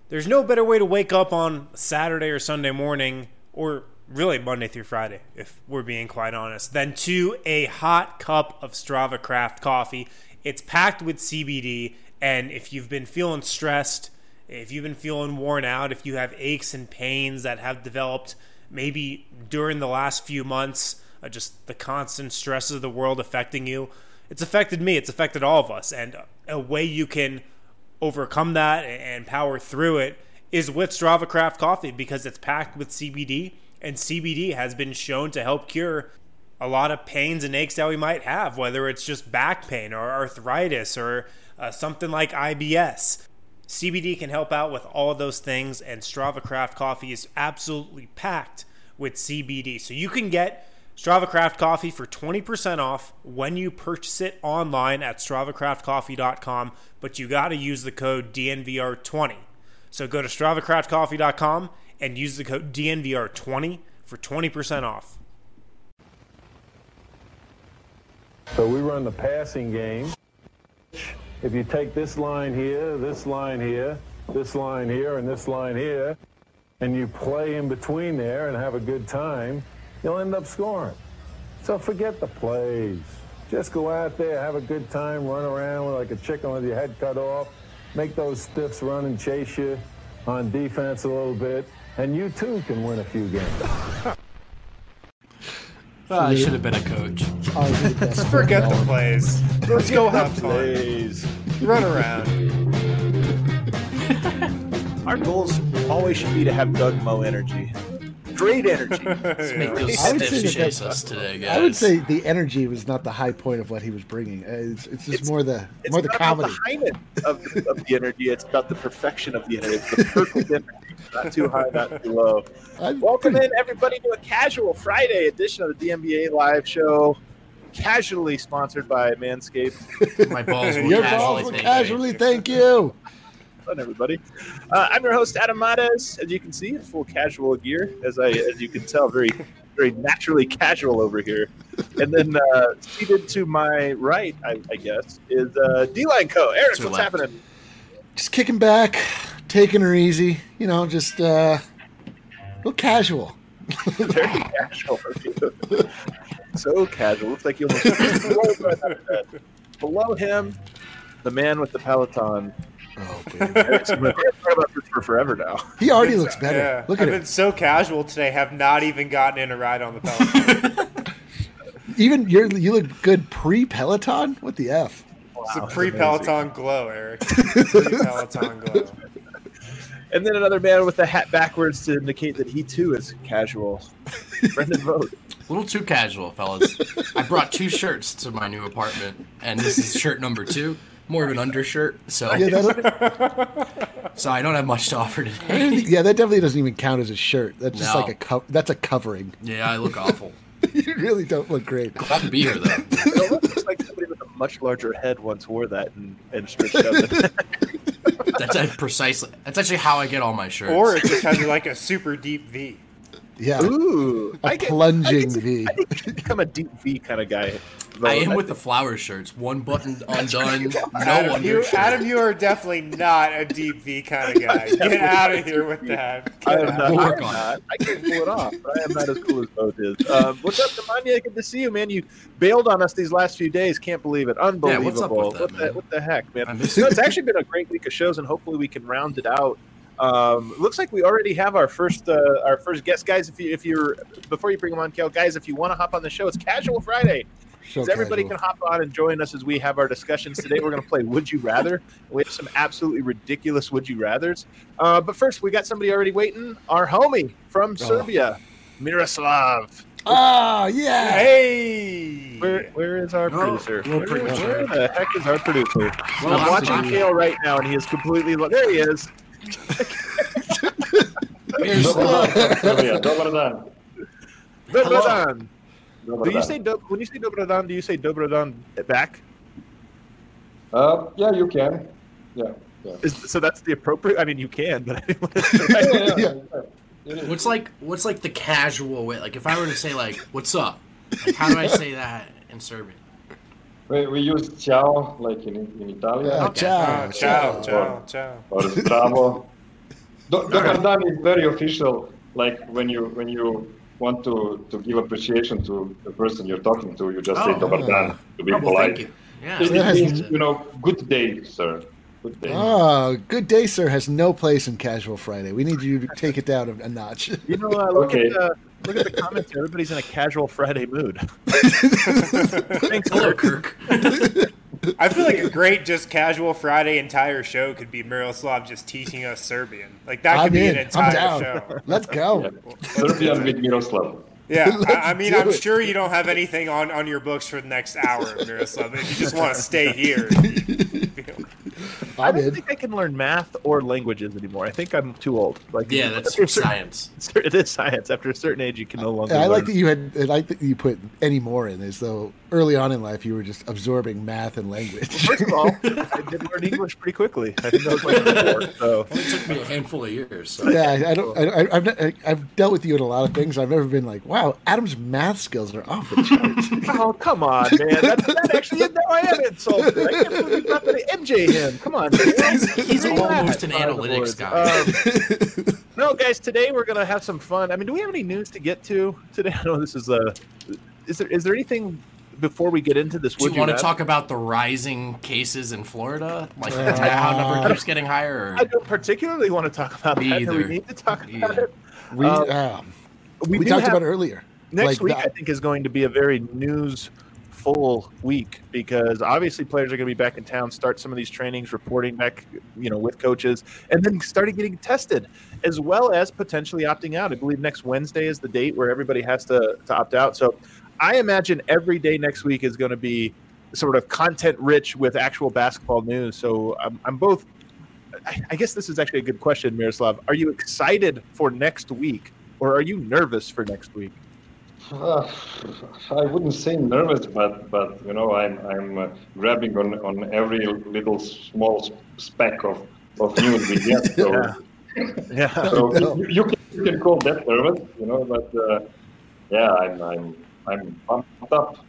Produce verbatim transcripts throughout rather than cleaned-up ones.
There's no better way to wake up on Saturday or Sunday morning, or really Monday through Friday, if we're being quite honest, than to a hot cup of Strava Craft coffee. It's packed with C B D, and if you've been feeling stressed, if you've been feeling worn out, if you have aches and pains that have developed maybe during the last few months, uh, just the constant stresses of the world affecting you, it's affected me, it's affected all of us, and a way you can overcome that and power through it is with Strava Craft coffee, because it's packed with C B D, and C B D has been shown to help cure a lot of pains and aches that we might have, whether it's just back pain or arthritis or uh, something like I B S. C B D can help out with all of those things, and Strava Craft coffee is absolutely packed with C B D. So you can get Strava Craft coffee for twenty percent off when you purchase it online at strava craft coffee dot com, but you got to use the code D N V R twenty. So go to strava craft coffee dot com and use the code D N V R twenty for twenty percent off. So we run the passing game. If you take this line here, this line here, this line here, and this line here, and you play in between there and have a good time, you'll end up scoring. So forget the plays. Just go out there, have a good time, run around like a chicken with your head cut off, make those stiffs run and chase you on defense a little bit, and you too can win a few games. Oh, I should have been a coach. Just forget the plays. Let's go have fun. Plays. Run around. Our goals always should be to have Doug Moe energy. Great energy. Let's make those I would stiffs say that chase that- us today, guys. I would say the energy was not the high point of what he was bringing. Uh, It's, it's just It's- more the It's more the not comedy. about the highness of, of the energy. It's about the perfection of the energy. It's the perfect energy. Not too high, not too low. I'm Welcome pretty- in, everybody, to a casual Friday edition of the D N B A Live Show. Casually sponsored by Manscaped. My balls will Your casually balls will take casually thank you. Fun, everybody. Uh, I'm your host, Adam Mates. As you can see, in full casual gear. As I, as you can tell, very, very naturally casual over here. And then uh, seated to my right, I, I guess, is uh, D-Line Co. Eric, To what's left. happening? Just kicking back, taking her easy. You know, just uh, real casual. Very casual. So casual. Looks like you almost rolled right out of bed. Below him, the man with the Peloton. Oh, baby. Eric's been talking about this for forever now. He already looks better. Yeah, Look I've at been it. so casual today, have not even gotten in a ride on the Peloton. Even you're, you look good pre-Peloton. What the f? It's a Wow, pre-Peloton glow, Eric. Pre-Peloton glow. And then another man with the hat backwards to indicate that he too is casual. Brendan Vogt. A little too casual, fellas. I brought two shirts to my new apartment, and this is shirt number two. More of an undershirt, so Yeah, that, so I don't have much to offer I today. don't think- yeah, that definitely doesn't even count as a shirt. That's just No. like a co- that's a covering. Yeah, I look awful. You really don't look great. Glad to be here, though. It looks like somebody with a much larger head once wore that and, and stretched out the That's uh, precisely. That's actually how I get all my shirts. Or it just has like a super deep V. Yeah, Ooh. a I get- plunging I get- V. I think you should become a deep V kind of guy. I am with the flower shirts. One button undone, no Adam, you, undershirt. Adam, you are definitely not a deep V kind of guy. Get out of here with that. I Get am out. not. We'll I work am on it. not. I can't pull it off, but I am not as cool as Vogt is. Um, what's up, Nemanja? Good to see you, man. You bailed on us these last few days. Can't believe it. Unbelievable. what's up with that, what, man? the, what the heck, man? I miss No, it. it's actually been a great week of shows, and hopefully we can round it out. Um, looks like we already have our first uh, our first guest, guys. If you if you're before you bring them on, Kel, guys, if you want to hop on the show, it's Casual Friday. So So everybody casual. can hop on and join us as we have our discussions today. We're going to play Would You Rather. We have some absolutely ridiculous Would You Rathers. Uh, but first, we got somebody already waiting. Our homie from Serbia, Miroslav. Oh yeah. Hey! Where where is our Oh, producer? little Where, producer. where the heck is our producer? Well, I'm I'm watching watching- Kale right now, and he is completely. Lo- there he is. Serbia, dobar dan. Dobrodan. Dobar Do you dan. say do- when you say Dobrodan? Do you say Dobrodan back? Uh, yeah, you can. Yeah, yeah. Is, so that's the appropriate. I mean, you can, but I didn't want to. Yeah, yeah, Yeah. yeah. It is. What's like what's like the casual way? Like if I were to say like "What's up?" Like how do I say that in Serbian? We, we use ciao like in, in Italian. Yeah, Okay. ciao, Oh, ciao, ciao, ciao. Or zdravo. Do- Dobardan is very official. Like when you when you want to, to give appreciation to the person you're talking to, you just say Oh. Dobardan to be Oh, well, polite. thank you. Yeah. It, it That means, has- you know, good day, sir. Good day. Oh, good day, sir, has no place in Casual Friday. We need you to take it down a notch. You know, uh, look Okay. at the look at the comments. Everybody's in a casual Friday mood. Thanks, Hello, Kirk. Kirk. I feel like a great just casual Friday entire show could be Miroslav just teaching us Serbian. Like that could I'm be in. an I'm entire down. show. Let's go. Serbian with Miroslav. Yeah, I, I Let's mean, do I'm it. sure you don't have anything on, on your books for the next hour, Miroslav. If you just want to stay here. I I'm don't in. think I can learn math or languages anymore. I think I'm too old. Like Yeah, that's after a certain- science. It is science. After a certain age, you can no longer. I like learn. that you had. I like that you put any more in, as though early on in life you were just absorbing math and language. First of all, I did learn English pretty quickly. I think that was like four. So It took me a handful of years. So. Yeah, I, I don't. I, I- I've not- I, I've dealt with you in a lot of things. I've never been like, wow, Adam's math skills are off the charts. oh come on, man. That, that actually now I am insulted. I can't believe you brought that M J him. Come on, man. He's Bring almost that. an Fire the analytics boards. guy. Um, no, guys. Today we're gonna have some fun. I mean, do we have any news to get to today? I know this is a. Is there is there anything before we get into this? Do would you want to rather? talk about the rising cases in Florida? Like the how number keeps getting higher? I Or? don't particularly want to talk about Me that. Do we either. need to talk Me about either. it? We Um, um, We, we do talked have- about it earlier. Next Like week, that- I think, is going to be a very news full week because obviously players are going to be back in town, start some of these trainings, reporting back, you know, with coaches, and then starting getting tested, as well as potentially opting out. I believe next Wednesday is the date where everybody has to, to opt out. So I imagine every day next week is going to be sort of content rich with actual basketball news. So I'm, I'm both. I, I guess this is actually a good question, Miroslav. Are you excited for next week, or are you nervous for next week? Uh, I wouldn't say nervous, but but you know, I'm I'm uh, grabbing on, on every little small speck of, of news we get. So, Yeah. Yeah. so No. you, you can you can call that nervous, you know. But uh, yeah, I'm I'm I'm pumped up.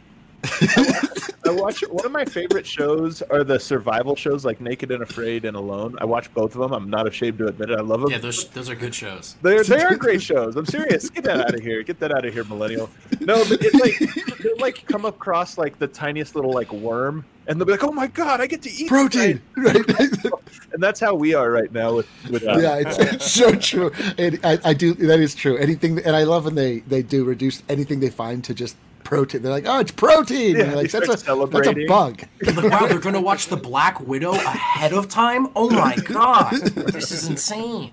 I watch one of my favorite shows are the survival shows like Naked and Afraid and Alone. I watch both of them. I'm not ashamed to admit it. I love them. Yeah, those those are good shows. They're they are great shows. I'm serious. Get that out of here. Get that out of here, millennial. No, but it's like they'll like come across like the tiniest little like worm, and they'll be like, "Oh my god, I get to eat Protein, this right? guy." And that's how we are right now with with. Uh, Yeah, it's, it's so true. And I, I do. That is true. Anything, and I love when they they do reduce anything they find to just protein. They're like, oh, it's protein. Yeah, And like, they that's a start that's a celebrating. bug. Like, wow, they're going to watch The Black Widow ahead of time? Oh my god. This is insane.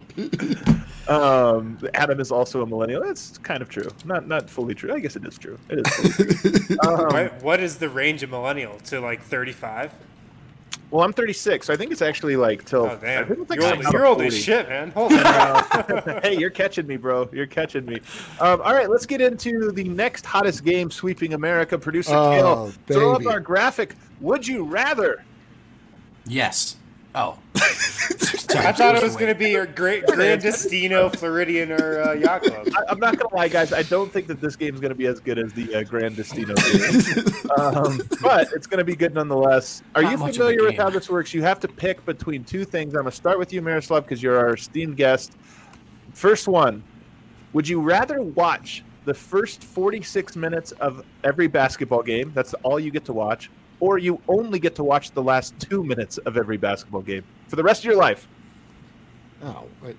Um, Adam is also a millennial. That's kind of true. Not not fully true. I guess it is true. It is fully true. Um, What, what is the range of millennial to like thirty-five? well, I'm thirty-six, so I think it's actually like till. Oh I damn, think it's like you're, about you're old as forty. shit, man. Holy crap. Hey, you're catching me, bro. You're catching me. Um, all right, let's get into the next hottest game sweeping America. Producer Oh, Kale, throw up baby. our graphic. Would you rather? Yes. Oh. I thought it was going to be your great Grandestino, Floridian, or uh, Yacht Club. I, I'm not gonna lie, guys. I don't think that this game is gonna be as good as the uh, Grand Destino game, um, but it's gonna be good nonetheless. Are Not you much of a familiar with game. how this works? You have to pick between two things. I'm gonna start with you, Miroslav, because you're our esteemed guest. First one: would you rather watch the first forty-six minutes of every basketball game? That's all you get to watch, or you only get to watch the last two minutes of every basketball game for the rest of your life? Oh, wait.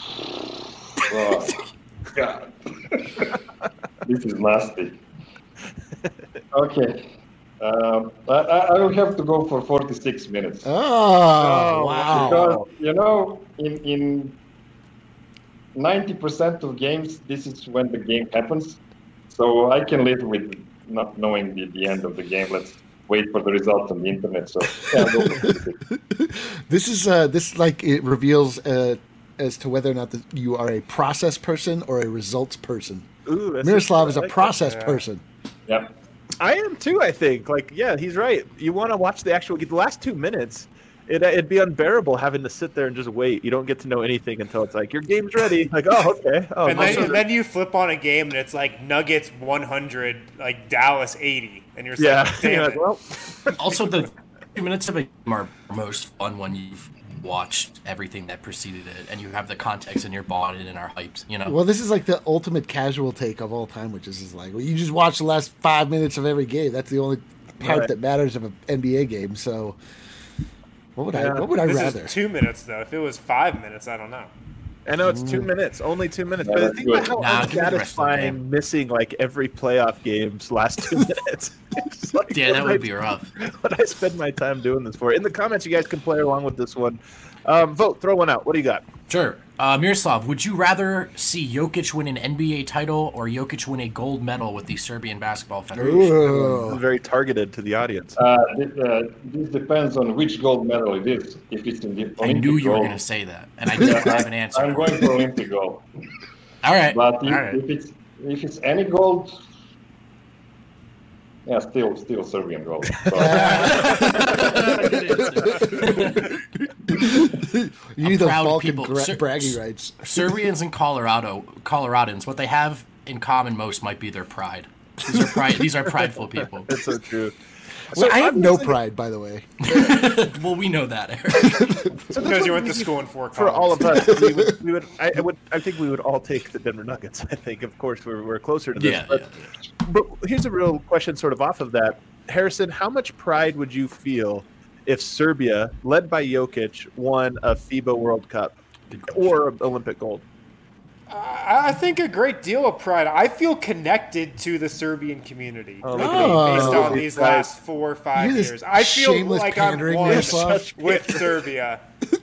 Oh, God. This is nasty. Okay. Um, I, I I will have to go for forty-six minutes. Oh, wow. Because, you know, in, in ninety percent of games, this is when the game happens. So I can live with not knowing the, the end of the game. Let's wait for the results on the internet. So, yeah, I'll go for forty-six. This is uh, this like it reveals uh, as to whether or not the, you are a process person or a results person. Ooh, that's Miroslav is I a like that. process Yeah. person. Yeah. I am too. I think. Like, yeah, he's right. You want to watch the actual the last two minutes. It, it'd be unbearable having to sit there and just wait. You don't get to know anything until it's like your game's ready. Like, oh, okay. Oh, And then, also- and then you flip on a game and it's like Nuggets one hundred, like Dallas eighty, and you're just yeah. like, damn You're it. like, well, Also, the two minutes of a game are most fun when you've watched everything that preceded it, and you have the context and you're bought in and are hyped. You know. Well, this is like the ultimate casual take of all time, which is, is like, well, you just watch the last five minutes of every game. That's the only part Right. that matters of an N B A game. So, what would Yeah. I? What would I This rather? is two minutes though. If it was five minutes, I don't know. I know it's two minutes, only two minutes. But Yeah, think about how Nah, give me the rest of the unsatisfying game. missing like every playoff game's last two minutes. It's like, Yeah, that what would I- be rough. What I spend my time doing this for. In the comments, you guys can play along with this one. Um, vote, throw one out. What do you got? Sure. Uh, Miroslav, would you rather see Jokic win an N B A title or Jokic win a gold medal with the Serbian Basketball Federation? Ooh. Very targeted to the audience. Uh, th- uh, this depends on which gold medal it is. If it's in the Olympic I knew you were gold, going to say that, and I didn't have an answer. I'm going for Olympic gold. All right. But All if, right. if it's if it's any gold, yeah, still still Serbian gold. So, You need those proud Balkan people. gra- Ser- bragging rights. Serbians and Colorado, Coloradans, what they have in common most might be their pride. These are pride. These are prideful people. That's so true. Well, I have no obviously- pride, by the way. Well, we know that, Eric. So Because this you one went to we- school in Fort For all Collins. of us, we would, we would, I, I would, I think we would all take the Denver Nuggets. I think, of course, we're, we're closer to this. Yeah, but, yeah. but here's a real question, sort of off of that, Harrison. How much pride would you feel if Serbia, led by Jokic, won a FIBA World Cup or Olympic gold? I I think a great deal of pride. I feel connected to the Serbian community Oh, based look at these- on these these guys. last four or five You're this years. I feel shameless like I'm pandering, one Miroslav. with Serbia.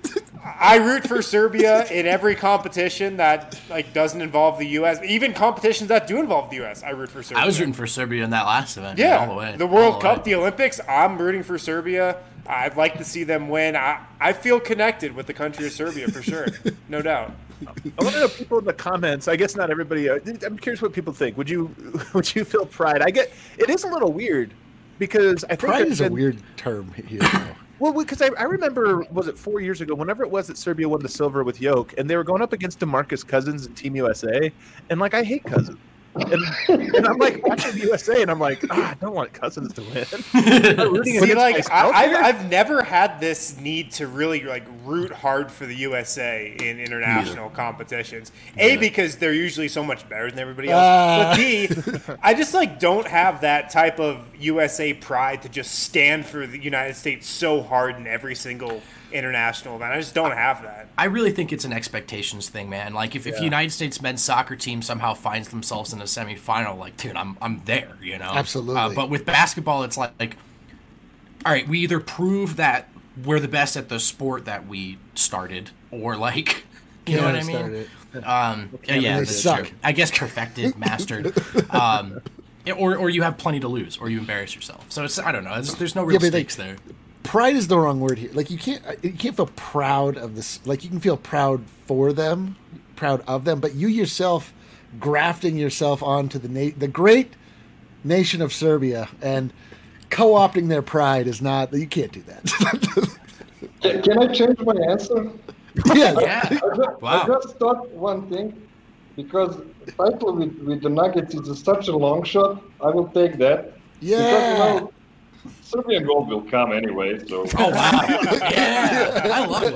I root for Serbia in every competition that like doesn't involve the U S. Even competitions that do involve the U S, I root for Serbia. I was rooting for Serbia in that last event. Yeah, all the way. the World all Cup, way. the Olympics. I'm rooting for Serbia. I'd like to see them win. I, I feel connected with the country of Serbia for sure, no doubt. I want to know people in the comments. I guess not everybody. uh, I'm curious what people think. Would you, would you feel pride? I get it is a little weird because I think Pride there's is a been- weird term here. Though. Well, because I, I remember, was it four years ago, whenever it was that Serbia won the silver with Yoke, and they were going up against DeMarcus Cousins and Team U S A, and like I hate Cousins, and, and I'm like watching the U S A, and I'm like, ah, I don't want Cousins to win. I'm rooting See, against like myself I, here. I've, I've never had this need to really like root hard for the U S A in international competitions. A, Yeah. because they're usually so much better than everybody else. Ah. But B, I just like don't have that type of U S A pride to just stand for the United States so hard in every single international event. I just don't have that. I really think it's an expectations thing, man. Like if, if Yeah. the United States men's soccer team somehow finds themselves in a semifinal, like, dude, I'm I'm there, you know. Absolutely. Uh, but with basketball, it's like, like, all right, we either prove that we're the best at the sport that we started, or like, you know what I mean? Started it. Um, yeah, yeah, They that's suck. true. I guess perfected, mastered, um, or or you have plenty to lose, or you embarrass yourself. So it's I don't know. There's, there's no real Yeah, but, like, stakes there. Pride is the wrong word here. Like you can't you can't feel proud of this. Like you can feel proud for them, proud of them, but you yourself grafting yourself onto the na- the great nation of Serbia and co-opting their pride is not. You can't do that. can, can I change my answer? yeah, Yeah. I just, Wow. I just thought one thing, because title with, with the Nuggets is a, such a long shot. I will take that. yeah. Because, you know, Serbian gold will come anyway, so Oh wow! Yeah, I love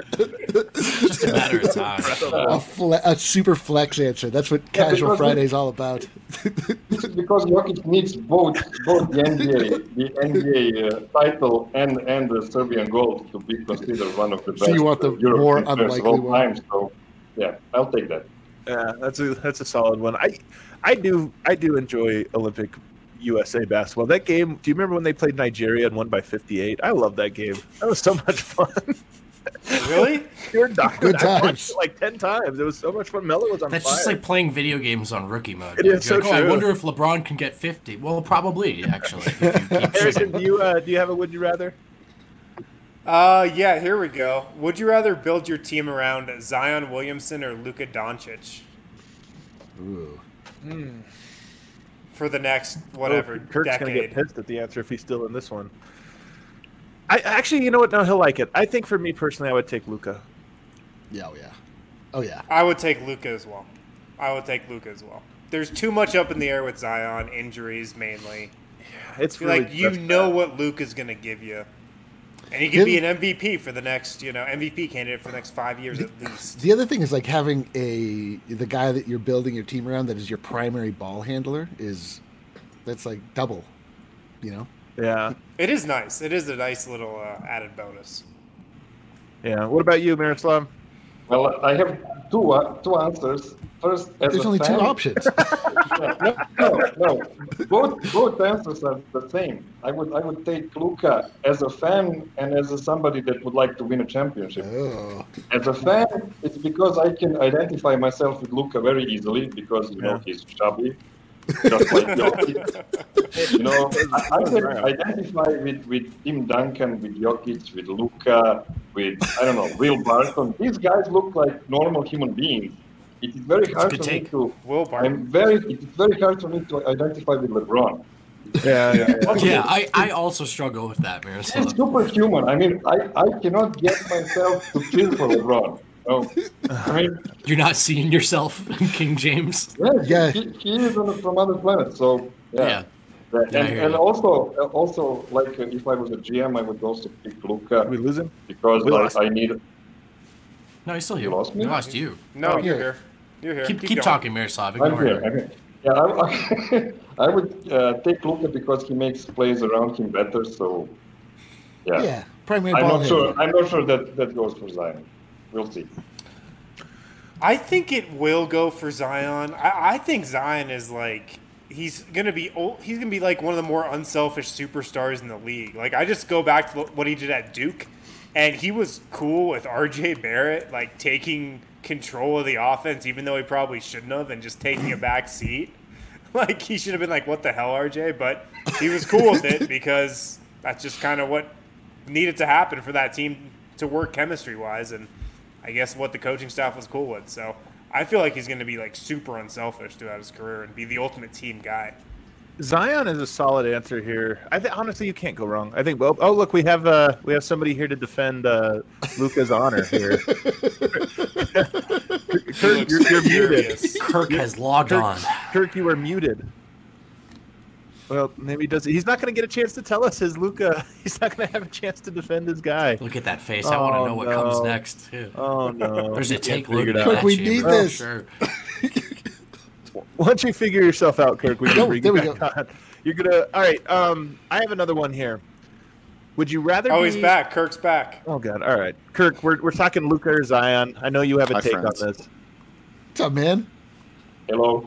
it. Just a matter of time. a, fle- a super flex answer. That's what Yeah, Casual because Friday is all about. this is because Jokic needs both both the N B A, the N B A uh, title and and the Serbian gold to be considered one of the best. So you want the uh, European more players unlikely of all one. time. So yeah, I'll take that. Yeah, that's a that's a solid one. I I do I do enjoy Olympic U S A basketball. That game, do you remember when they played Nigeria and won by fifty-eight? I love that game. That was so much fun. Really? You're not Good I watched times. it like ten times. It was so much fun. Melo was on That's fire. just like playing video games on rookie mode. It dude. is You're so like, oh, I true. wonder if LeBron can get fifty. Well, probably actually. If you keep Harrison, shooting. do you uh, do you have a would you rather? Uh, yeah, here we go. Would you rather build your team around Zion Williamson or Luka Doncic Ooh. for the next whatever Oh, Kurt's gonna get decade? pissed at the answer if he's still in this one. I actually, you know what? No, he'll like it. I think for me personally, I would take Luca. Yeah, oh yeah. Oh yeah. I would take Luka as well. I would take Luka as well. There's too much up in the air with Zion, injuries mainly. It's Feel really like you that's know bad. what Luka's gonna give you. And he could be an M V P for the next, you know, M V P candidate for the next five years at least. The other thing is like having a the guy that you're building your team around that is your primary ball handler is that's like double, you know. Yeah. It is nice. It is a nice little uh, added bonus. Yeah. What about you, Miroslav? Well, I have two uh, two answers. First, as There's a only fan, two options. no, no, no. Both both answers are the same. I would I would take Luka as a fan and as a somebody that would like to win a championship. Oh. As a fan, it's because I can identify myself with Luka very easily because you know Yeah. he's chubby, just like Jokic. You know, I, I can identify with, with Tim Duncan, with Jokic, with Luka, with I don't know, Will Barton. These guys look like normal human beings. It is very hard good for take. me to. Will Barton. I'm very. It is very hard for me to identify with LeBron. Yeah, yeah, yeah. Yeah, I, I also struggle with that, It's Miroslav. superhuman. I mean, I, I cannot get myself to cheer for LeBron. No, I mean, You're not seeing yourself in King James. yeah, Yeah. He, he is on, from other planets. So yeah. Yeah. And, Yeah, I hear and you. also, also, like uh, if I was a G M, I would also pick Luka We lose him? because We like, lost I need. No, he's still here. You lost me? We lost you. No, Oh, you're here. here. You're here. Keep, keep, going. talking, Miroslav. I'm Ignore here. him. I'm here. Yeah, I, I would uh, take Luka because he makes plays around him better. So yeah, Yeah, primary I'm ball not sure. handler. I'm not sure that that goes for Zion. We'll see. I think it will go for Zion. I, I think Zion is like he's gonna be old, he's gonna be like one of the more unselfish superstars in the league. Like I just go back to what he did at Duke, and he was cool with R J Barrett, like taking control of the offense, even though he probably shouldn't have, and just taking a back seat. Like he should have been like, "What the hell, R J?" But he was cool with it because that's just kind of what needed to happen for that team to work chemistry wise, and I guess what the coaching staff was cool with. So I feel like he's going to be like super unselfish throughout his career and be the ultimate team guy. Zion is a solid answer here. I think honestly, you can't go wrong. I think. Well, oh look, we have uh, we have somebody here to defend uh, Luka's honor here. Kirk, you're, you're muted. Furious. Kirk has logged Kirk, on. Kirk, you are muted. Well, maybe he does. He's not going to get a chance to tell us his Luka. He's not going to have a chance to defend his guy. Look at that face. I want to Oh, know what no. comes next. too. Oh no! There's a You can't take figure loaded it in out. Kirk, that we chamber, need for this. Sure. Once you figure yourself out, Kirk, we can No, bring there you we back on. You're gonna. All right. Um, I have another one here. Would you rather? Oh, be, he's back. Kirk's back. Oh God! All right, Kirk. We're we're talking Luka or Zion. I know you have a Hi, take friends. on this. What's up, man? Hello.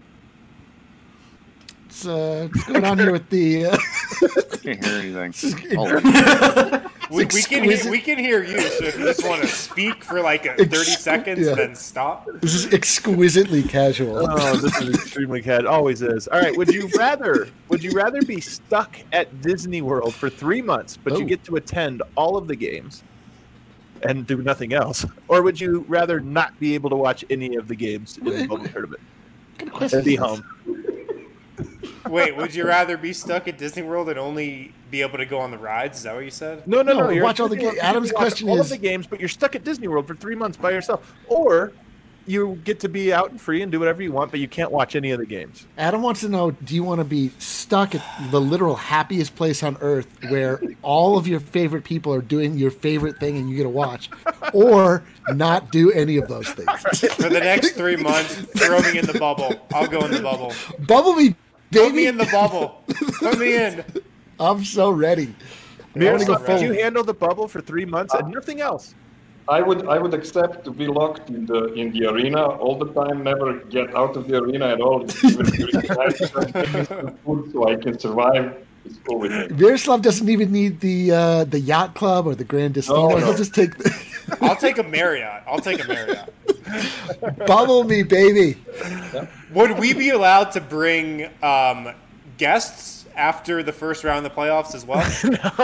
What's, uh, what's going on here with the? Uh, Can't hear anything. Oh, We, we can hear, exquisite. we can hear you. So if you just want to speak for like a thirty Ex- seconds, yeah. then stop. this is exquisitely casual. Oh, this is extremely cat. Always is. All right. Would you rather? Would you rather be stuck at Disney World for three months, but you Oh. get to attend all of the games and do nothing else, or would you rather not be able to watch any of the games in the Wait, bubble wait. tournament What kind of question and be is this? home? Wait, would you rather be stuck at Disney World and only be able to go on the rides? Is that what you said? No, no, no. No, you're watch at all the Disney World. ga- You Adam's get to watch question all is- of the games, but you're stuck at Disney World for three months by yourself, or you get to be out and free and do whatever you want, but you can't watch any of the games. Adam wants to know: do you want to be stuck at the literal happiest place on earth, where all of your favorite people are doing your favorite thing and you get to watch, or not do any of those things? For the next three months, throw me in the bubble. I'll go in the bubble. Bubble me, Put me baby! in the bubble. Put me in. I'm so ready. I wanna go Miroslav, could full. you handle the bubble for three months and nothing else? I would I would accept to be locked in the in the arena all the time, never get out of the arena at all, even during the night, just give me some food so I can survive. It's cool with me. Miroslav doesn't even need the uh, the yacht club or the Grand Destino. No, no. He'll just take the I'll take a Marriott. I'll take a Marriott. bubble me, baby. Would we be allowed to bring um, guests after the first round of the playoffs as well?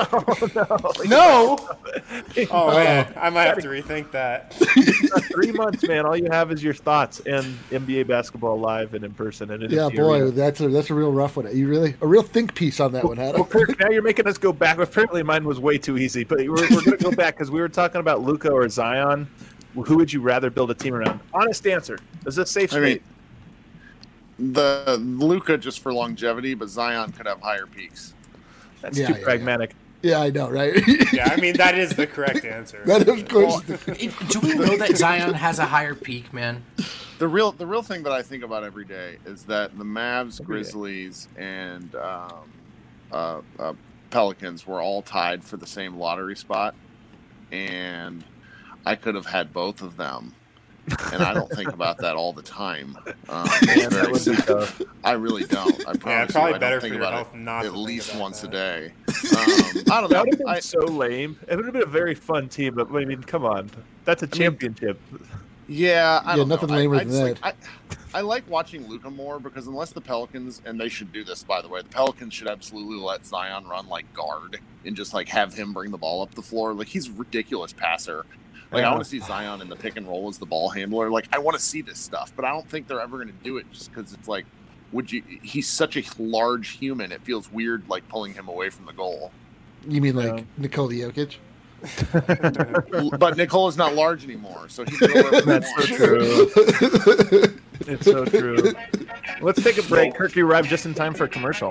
No. Oh man, I might have to rethink that. Three months, man. All you have is your thoughts and N B A basketball live and in person. And in Yeah, the boy, arena. that's a that's a real rough one. You really a real think piece on that one, Adam. Well, Kirk, now you're making us go back. Apparently, mine was way too easy, but we're, we're going to go back because we were talking about Luka or Zion. Who would you rather build a team around? Honest answer. Is this safe I mean, space? the Luka just for longevity, but Zion could have higher peaks. That's Yeah, too yeah, pragmatic. Yeah, I know, right? Yeah, I mean that is the correct answer. That of course. Well, it- do we know that Zion has a higher peak, man? The real the real thing that I think about every day is that the Mavs, Every day. Grizzlies, and um, uh, uh, Pelicans were all tied for the same lottery spot, and I could have had both of them. And I don't think about that all the time. Um, it's Man, that very would be sad. tough. I really don't. I promise probably you, I better don't for think your about health not it to at think least about once that. a day. Um, I don't That know. would have been I, so lame. It would have been a very fun team, but I mean, come on, that's a championship. Yeah, I Yeah, don't nothing know. lamer I, I than just like, I, I like watching Luka more because unless the Pelicans, and they should do this by the way, the Pelicans should absolutely let Zion run like guard and just like have him bring the ball up the floor. Like he's a ridiculous passer. Like Yeah. I want to see Zion in the pick and roll as the ball handler. Like I want to see this stuff, but I don't think they're ever going to do it just because it's like, would you? He's such a large human. It feels weird like pulling him away from the goal. You mean like Yeah. Nikola Jokic? But Nicola's not large anymore, so he can go wherever he That's so wants. true. It's so true. Let's take a break. Kirk, you arrived just in time for a commercial.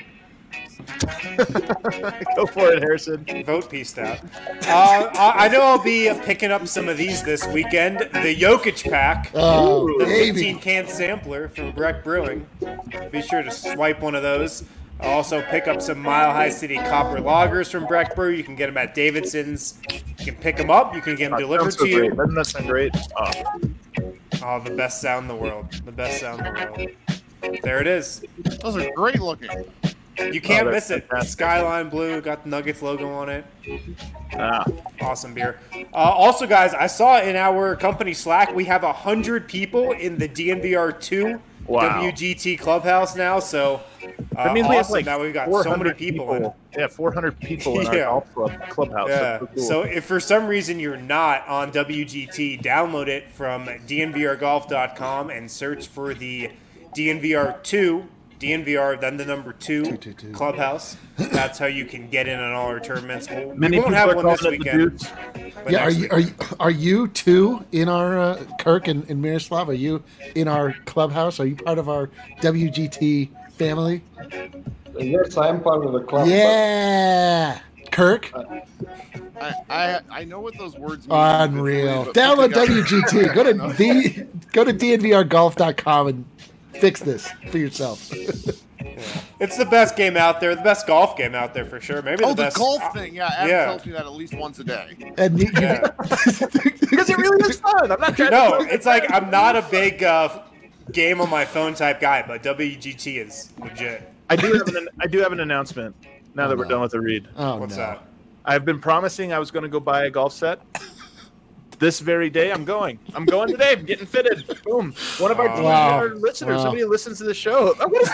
Go for it, Harrison. Vote pieced out. Uh, I I know I'll be picking up some of these this weekend. The Jokic pack, Oh, the baby. fifteen can sampler from Breck Brewing. Be sure to swipe one of those. I'll also pick up some Mile High City Copper Lagers from Breck Brew. You can get them at Davidson's. You can pick them up. You can get them delivered Sounds so to great. you. Doesn't that sound great? Oh, Oh, the best sound in the world. The best sound in the world. There it is. Those are great looking. You can't Oh, miss that's it. fantastic. Skyline Blue, got the Nuggets logo on it. ah. Awesome beer. Uh, also, guys, I saw in our company Slack we have one hundred people in the D N V R two Wow. W G T Clubhouse now. So uh, That means awesome. we have like now we've got four so hundred many people, in. Yeah, four hundred people in our Yeah. golf club clubhouse. Yeah. That's so cool. So if for some reason you're not on W G T, download it from D N V R golf dot com and search for the D N V R two, D N V R, then the number two, Two, two, two. Clubhouse. That's how you can get in on all our tournaments. We'll, Many we won't people have are one this calling it the weekend. Dudes. but Yeah, are next you week. are you are you two in our uh, Kirk and, and Miroslav? Are you in our clubhouse? Are you part of our W G T family? Yes, I am part of the club. Yeah, Kirk, I, I I know what those words mean. unreal. but Download put together- W G T. Go to the go to D N V R golf dot com and fix this for yourself. It's the best game out there, the best golf game out there for sure. Maybe Oh, the the best. golf thing. Yeah, Adam yeah. tells me that at least once a day. And you, you- Yeah. Because it really is fun. I'm not trying No, to. it's like I'm not a big uh, game on my phone type guy, but W G T is legit. I do have an I do have an announcement. Now that we're no. done with the read, oh What's no. that? I've been promising I was going to go buy a golf set. This very day, I'm going. I'm going today. I'm getting fitted. Boom. One of our, Wow. Wow. our listeners, Wow. somebody who listens to the show. Oh, what is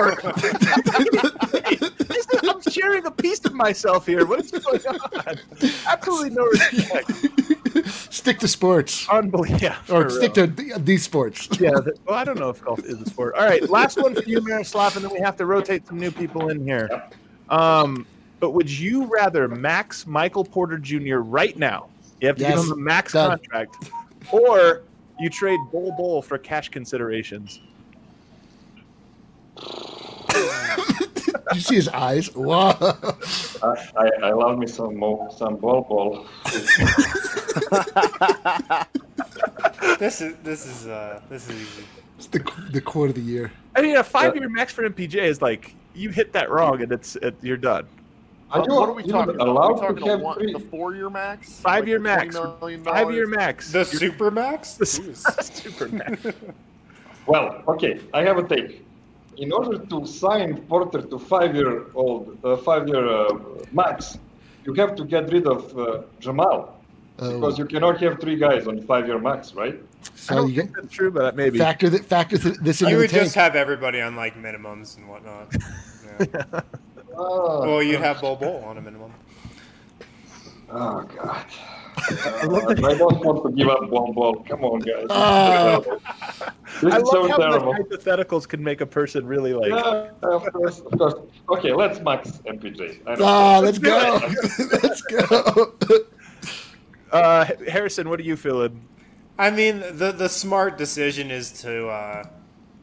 that for? This is- I'm sharing a piece of myself here. What is going on? Absolutely no respect. Stick to sports, Unbelievable. Yeah, or for stick real. to the, these sports. Yeah. The, well, I don't know if golf is a sport. All right, last one for you, Miroslav, and then we have to rotate some new people in here. Um, but would you rather max Michael Porter Junior right now? You have to Yes. give him a max Done. contract, or you trade Bol Bol for cash considerations. Did you see his eyes? Wow. I, I, I love me some mo- some ball ball. This is this is uh, this is easy. It's the the quote of the year. I mean, a five-year max for M P J is like you hit that wrong and it's it, you're done. Are you what are we even talking about? Are allowed we talking to a have one, three? the four-year max? Five-year Like the max. $20 million Five-year max. The super max. The super max. Well, okay, I have a take. In order to sign Porter to five-year-old, uh, five-year uh, max, you have to get rid of uh, Jamal Oh. because you cannot have three guys on five-year max, right? I So don't you think get that's true, but maybe. factor that factor th- this into You the would tank. just have everybody on like minimums and whatnot. Yeah. Oh, Well, you'd have Bol Bol on a minimum. oh God. I don't want to give up one ball. Come on, guys. Oh. This I is love so how terrible. the hypotheticals can make a person really like. Yeah, of course, of course. Okay, let's max M P J. I don't Ah, care. let's go. Let's go. Uh, Harrison, what are you feeling? I mean, the the smart decision is to uh,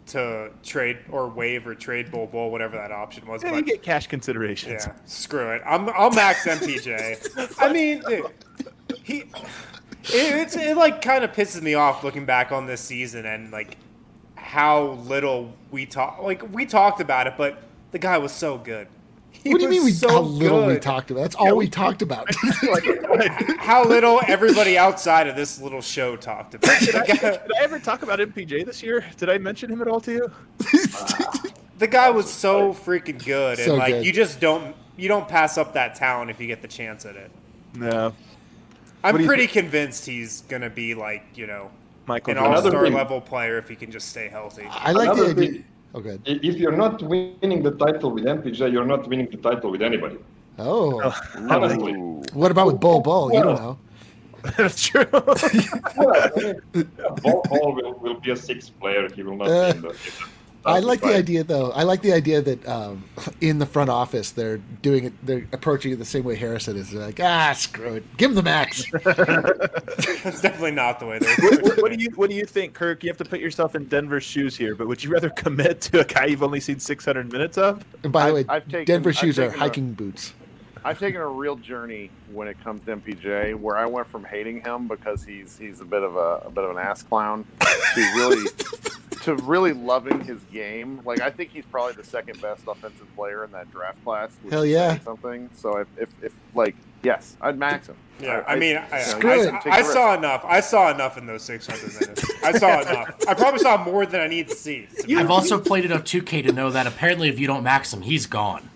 to trade or waive or trade Bol Bol, whatever that option was. Yeah, but you get cash considerations. yeah, screw it. I'm I'll max M P J. I mean, dude, he it, it's it like kind of pisses me off looking back on this season and like how little we talk. Like we talked about it, but the guy was so good. He What do you mean we, was so how little we good. talked about? That's all we talked about. How little everybody outside of this little show talked about. Did I, The guy, did I ever talk about M P J this year? Did I mention him at all to you? the guy was so freaking good, and So like good. you just don't you don't pass up that talent if you get the chance at it. No. I'm What do you pretty convinced he's gonna be like you know Michael an Jordan. all-star thing. level player if he can just stay healthy. I like the Another idea. thing- Oh, good. I- If you're not winning the title with M P J, you're not winning the title with anybody. Oh, Honestly. Ooh. what about with Bol Bol? You don't know. That's true. Yeah, I mean, Bol Bol will, will be a sixth player. He will not Uh, be in the. In the I like the fight. idea, though. I like the idea that um, in the front office they're doing it. They're approaching it the same way Harrison is. They're like, ah, screw it, give him the max. That's definitely not the way they're. what, what do you What do you think, Kirk? You have to put yourself in Denver's shoes here, but would you rather commit to a guy you've only seen six hundred minutes of? And by the way, I've- I've taken- Denver I've shoes are taken a- hiking boots. I've taken a real journey when it comes to M P J, where I went from hating him because he's he's a bit of a, a bit of an ass clown to really to really loving his game. Like I think he's probably the second best offensive player in that draft class. Which Hell is yeah. saying something. So if, if if like yes, I'd max him. Yeah, I mean, I, Screw I, it. I, Take I a saw enough. I saw enough in those six hundred minutes. I saw enough. I probably saw more than I need to see. to be I've honest. also played enough two K to know that apparently if you don't max him, he's gone.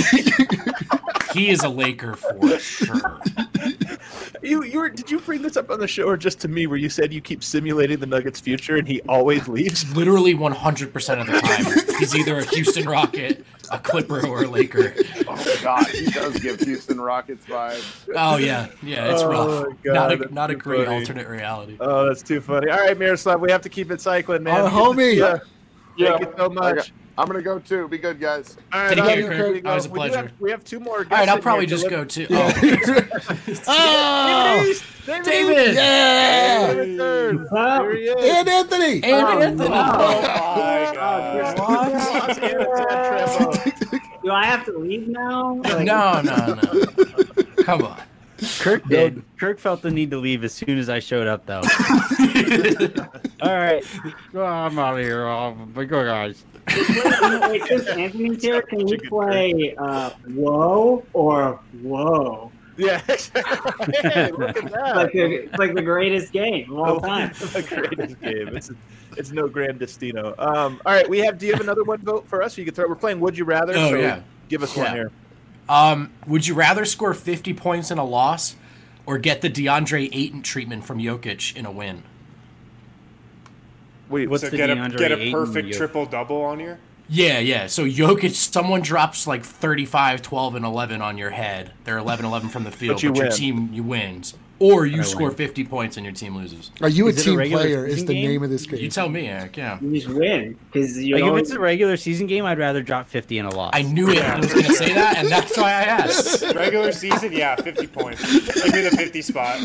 He is a Laker for sure. You you were did you bring this up on the show or just to me where you said you keep simulating the Nuggets' future and he always leaves? Literally one hundred percent of the time, he's either a Houston Rocket, a Clipper, or a Laker. Oh God, he does give Houston Rockets vibes. Oh yeah, yeah, it's Oh, rough. my God, not a, that's not a too great funny. alternate reality. Oh, that's too funny. All right, Miroslav, we have to keep it cycling, man. Our homie. Yeah. Yeah. Thank you so much. I'm gonna go too. Be good, guys. All right, Take all care, right, Kirk. we go. Always a We do pleasure. have- We have two more. All right, I'll probably just go. go too. Oh, Oh, David! yeah, Here he is. and Anthony. And Anthony! Oh my god! Los Angeles Trembo. Do I have to leave now? Like, No, no, no. Come on. Kirk did. Kirk felt the need to leave as soon as I showed up, though. All right. Oh, I'm out of here. Oh, but go, guys. Wait, since Anthony's here, can we play uh, Whoa or Whoa? Yeah, exactly. Hey, look at that. Like the, it's like the greatest game of all time. the greatest game. It's it's no grand destino. Um, all right, we have. Do you have another one vote for us? You can throw. We're playing. Would you rather? Oh, so yeah. Give us one Yeah. here. Um, would you rather score fifty points in a loss or get the DeAndre Ayton treatment from Jokic in a win? Wait, What's So the get a DeAndre get a Ayton perfect yo- triple double on you. Yeah, yeah. So Jokic, someone drops like thirty-five, twelve, and eleven on your head. They're eleven, eleven from the field, But but, you your win. team you wins. Or you I score win. fifty points and your team loses. Are you a Is it a team regular player? Is season the game? name of this You game? tell me, Eric. Yeah. You just win because you Like, if always it's a regular season game, I'd rather drop fifty in a loss. I knew it. I was going to say that, and that's why I asked. Regular season, yeah, fifty points. Give me the fifty spot.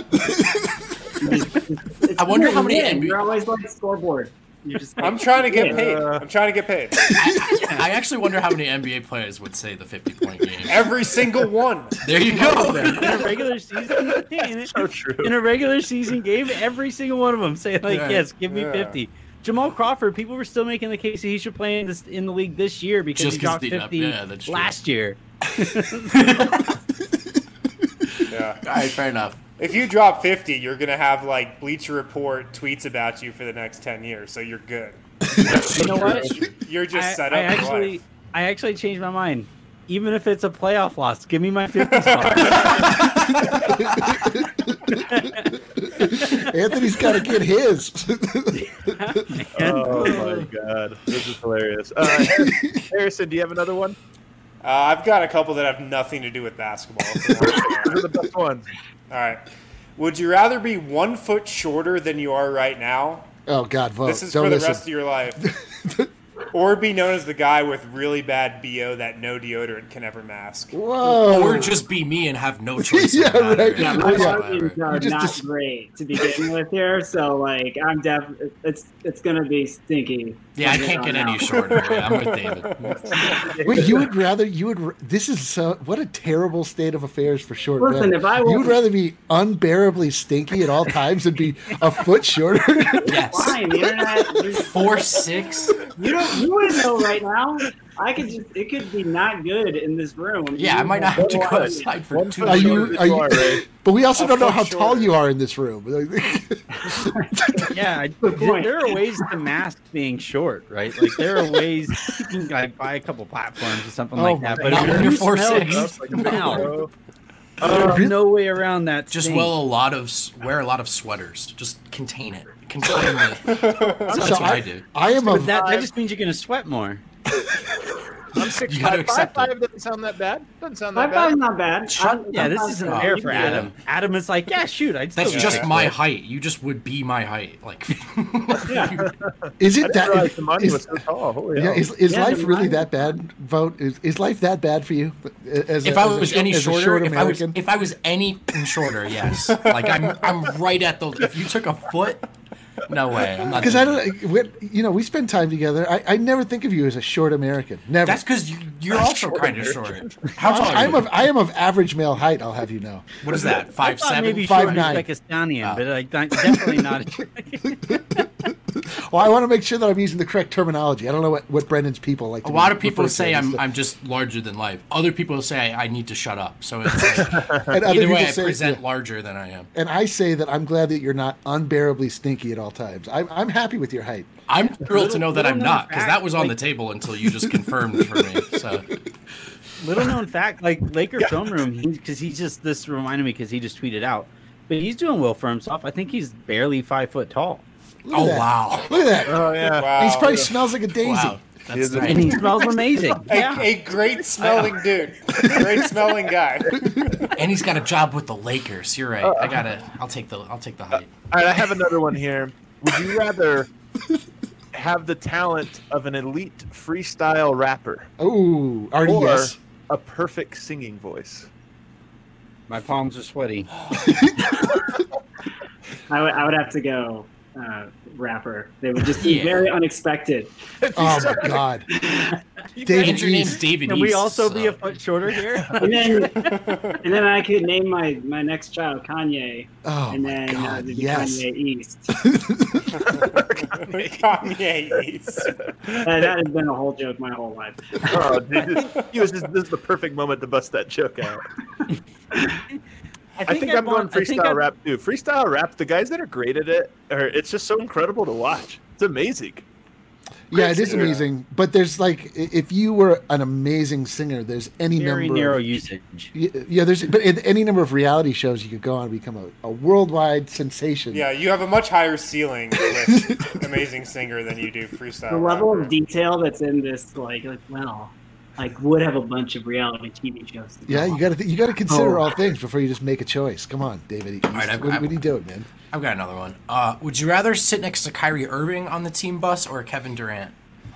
It's I wonder cool how to many win. N B A You're always like scoreboard. You're just like, I'm trying to get win. paid. I'm trying to get paid. I, I actually wonder how many N B A players would say the fifty-point game. Every single one. There you go. in a regular season game, so true. in a regular season game, every single one of them say like, Yeah. "Yes, give me Yeah. fifty." Jamal Crawford, people were still making the case that he should play in this in the league this year because Just he 'cause dropped he- fifty yeah, that's true. last year. Yeah. All right, fair enough. If you drop fifty, you're gonna have like Bleacher Report tweets about you for the next ten years, so you're good. You know what? You're just I, set I up for actually, life. I actually changed my mind. Even if it's a playoff loss, give me my fifty spot. Anthony's got to get his. Oh my god, this is hilarious. Uh, Harrison, do you have another one? Uh, I've got a couple that have nothing to do with basketball. if you want to know. These are the best ones. All right. Would you rather be one foot shorter than you are right now? Oh God, vote. This is Don't for the listen. rest of your life. or be known as the guy with really bad B O that no deodorant can ever mask. Whoa. Or just be me and have no choice. Yeah, in the matter right. Yeah, my whatsoever. margins are just- not just- great to begin with here, so like I'm def it's it's gonna be stinky. Yeah, I from can't here get on any out. shorter. Yeah, I'm with David. Wait, you would rather you would r- this is so what a terrible state of affairs for short Listen, men. if I you was- would rather be unbearably stinky at all times than be a foot shorter. Yes. Fine, the internet. you- Four six. You don't. You wouldn't know right now. I could just. It could be not good in this room. Yeah, I might not have to go One- outside for One two foot Are you- shorter than are you- are, Ray. But we also A don't know foot how tall shorter. you are in this room. Yeah, I, point. there are ways to mask being short, right? Like there are ways you can like buy a couple platforms or something Oh like my that. But God. if Not when you you're four smell, six. you That's like a smell. bro. There's no way around that. Just stink. wear a lot of s- wear a lot of sweaters. Just contain it. Contain it. That's So what I, do. I am a But that, that just means you're gonna sweat more. I'm six You gotta five. accept Five it. five doesn't sound that bad. Doesn't sound My that five's bad. not bad. Shut- I'm- Yeah, I'm this not isn't bad. fair You for can do Adam. Adam is like, yeah, shoot, I'd still That's do just that. my height. You just would be my height. Like Yeah. is I it didn't that realize the money is, was so tall. Holy yeah, hell. is, is Yeah, life the really money- that bad? Vote is, is life that bad for you? As a, if I as a was short- any as a shorter, short if I was American? if I was any shorter, yes. Like I'm I'm right at the. If you took a foot, no way. I'm not. Because I doing don't, it. we- you know, we spend time together. I, I never think of you as a short American. Never. That's because you, you're also kind of short. How tall are I'm you? of I am of average male height. I'll have you know. What is that? I Five thought seven. maybe Five short nine. Uzbekistanian, Oh. but like not- definitely not. Well, I want to make sure that I'm using the correct terminology. I don't know what, what Brendan's people like. To A lot be of people referred to say as. I'm I'm just larger than life. Other people say I, I need to shut up. So it's like, and other either people way, I say, present yeah. larger than I am. And I say that I'm glad that you're not unbearably stinky at all times. I'm, I'm happy with your height. I'm thrilled to know that I'm little known not because fact, that was on the like- table until you just confirmed for me. So Little known fact, like Laker film room, because he's just this reminded me because he just tweeted out, but he's doing well for himself. I think he's barely five foot tall, Look at oh that. wow, Look at that. Oh yeah. Wow. He probably smells like a daisy. wow, He that's is a- nice. and he smells amazing. A, Yeah. a great smelling dude. Great smelling guy. And he's got a job with the Lakers. You're right. I gotta. I'll take the. I'll take the height. All right, I have another one here. Would you rather have the talent of an elite freestyle rapper Oh, already or yes. a perfect singing voice? My palms are sweaty. I would. I would have to go. Uh, rapper. They would just be Yeah. very unexpected. Oh my God. David And your name's East. David. Can we East, also so- be a foot shorter here? And then, and then I could name my, my next child Kanye, Oh and my then uh, God. it'd be Yes. Kanye East. Kanye East. Uh, that has been a whole joke my whole life. Oh, dude, this, he was just, this is the perfect moment to bust that joke out. I think, I'd I'm going want- I think freestyle I'd- rap too. Freestyle rap, the guys that are great at it, are, it's just so incredible to watch. It's amazing. Yeah, it is singer. amazing. But there's like, i- if you were an amazing singer, there's any Very number. narrow Of, usage. yeah, yeah, there's but in any number of reality shows you could go on and become a, a worldwide sensation. Yeah, you have a much higher ceiling with Amazing Singer than you do freestyle. The level rapper. of detail that's in this, like, like well, like would have a bunch of reality T V shows. to Yeah, go you got to you got to consider Oh. all things before you just make a choice. Come on, David. All right, I've- what, I've- what are you doing, man? I've got another one. Uh, would you rather sit next to Kyrie Irving on the team bus or Kevin Durant?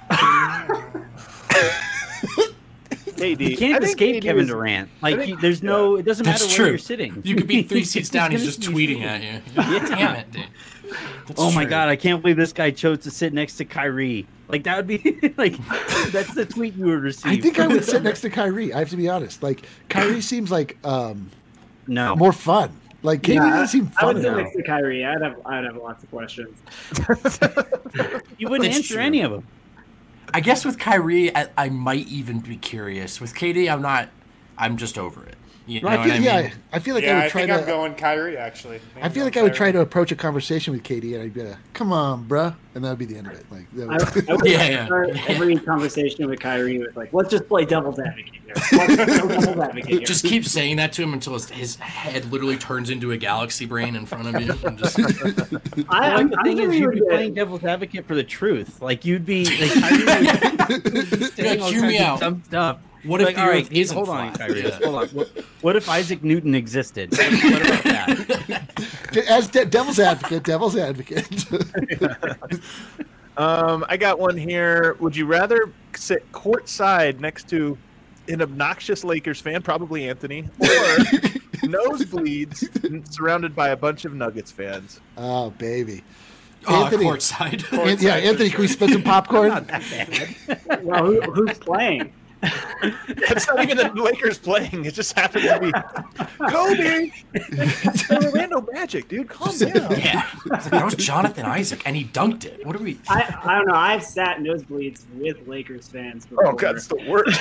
K D. You can't I think escape K D Kevin is- Durant. I Like, think- he- there's no. It doesn't That's matter true. where you're sitting. You could be three seats down. He's gonna just be tweeting sitting. at you. Damn it, dude. That's Oh my true. god, I can't believe this guy chose to sit next to Kyrie. Like that would be like that's the tweet you would receive. I think I would sit next to Kyrie. I have to be honest. Like Kyrie seems like um, no. more fun. Like K D Yeah, doesn't seem I would fun sit now. next to Kyrie. I'd have I'd have lots of questions. You wouldn't That's answer true. any of them. I guess with Kyrie, I, I might even be curious. With K D, I'm not. I'm just over it. You know I what feel, I mean? yeah, I feel like yeah, I I, would try think I'm to. going Kyrie, actually. I feel like I would try to approach a conversation with K D and I'd be like, "Come on, bruh," and that would be the end of it. Like, that I, would- I would Yeah, yeah. start every conversation with Kyrie with like, let's just play devil's advocate here. Let's play devil's advocate here. Just keep saying that to him until his, his head literally turns into a galaxy brain in front of you. And just, I, Well, I'm, like, the I'm thing sure is, you you'd would be get- playing devil's advocate for the truth. Like you'd be like, Kyrie would be saying Yeah, all hew me kinds of out. dumb stuff. What if like, the all right, Earth isn't hold on, flat? Kyrie. Yeah. Hold on. What, what if Isaac Newton existed? What, what about that? As de- devil's advocate, devil's advocate. Um, I got one here. Would you rather sit courtside next to an obnoxious Lakers fan, probably Anthony, or nosebleeds surrounded by a bunch of Nuggets fans? Oh, baby. Oh, Anthony. courtside. An- yeah, Anthony, can we spit some popcorn? Not that bad. Well, who, who's playing? It's not even the Lakers playing. It just happened to be Kobe. It's the Orlando Magic, dude. Calm down. Yeah, It's like, that was Jonathan Isaac, and he dunked it. What are we? I, I don't know. I've sat nosebleeds with Lakers fans before. Oh, God, it's the worst.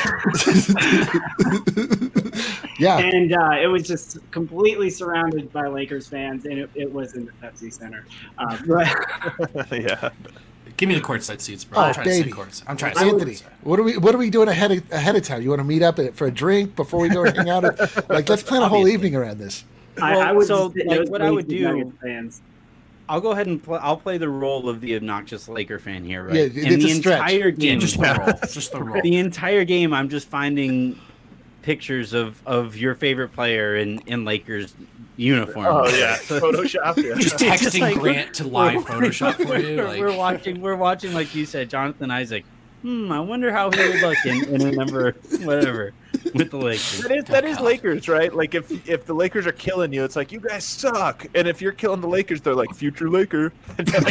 Yeah. And uh, it was just completely surrounded by Lakers fans, and it, it was in the Pepsi Center. Uh, but Yeah. Give me the courtside seats, bro. Oh, I'm trying baby. to sit courtside. I'm trying to sit Anthony, courtside. what are we what are we doing ahead of, ahead of time? You want to meet up for a drink before we go hang out? Like, let's plan a whole Obviously. evening around this. I, Well, I would so, just sit like, what I nosebleeds would with do- Nuggets fans. I'll go ahead and play. I'll play the role of the obnoxious Laker fan here, right? Yeah, And it's the a stretch. entire Yeah, game, just the roll. Just the roll. the entire game, I'm just finding pictures of, of your favorite player in, in Lakers uniform. Oh, yeah. Photoshop. Yeah. Just It's texting just like Grant to live Photoshop for you. We're, Like, we're watching. We're watching, like you said, Jonathan Isaac. Hmm. I wonder how he would look in, in a number, whatever, with the Lakers. That is that is Lakers, right? Like if if the Lakers are killing you, it's like you guys suck, and if you're killing the Lakers, they're like future Laker. you're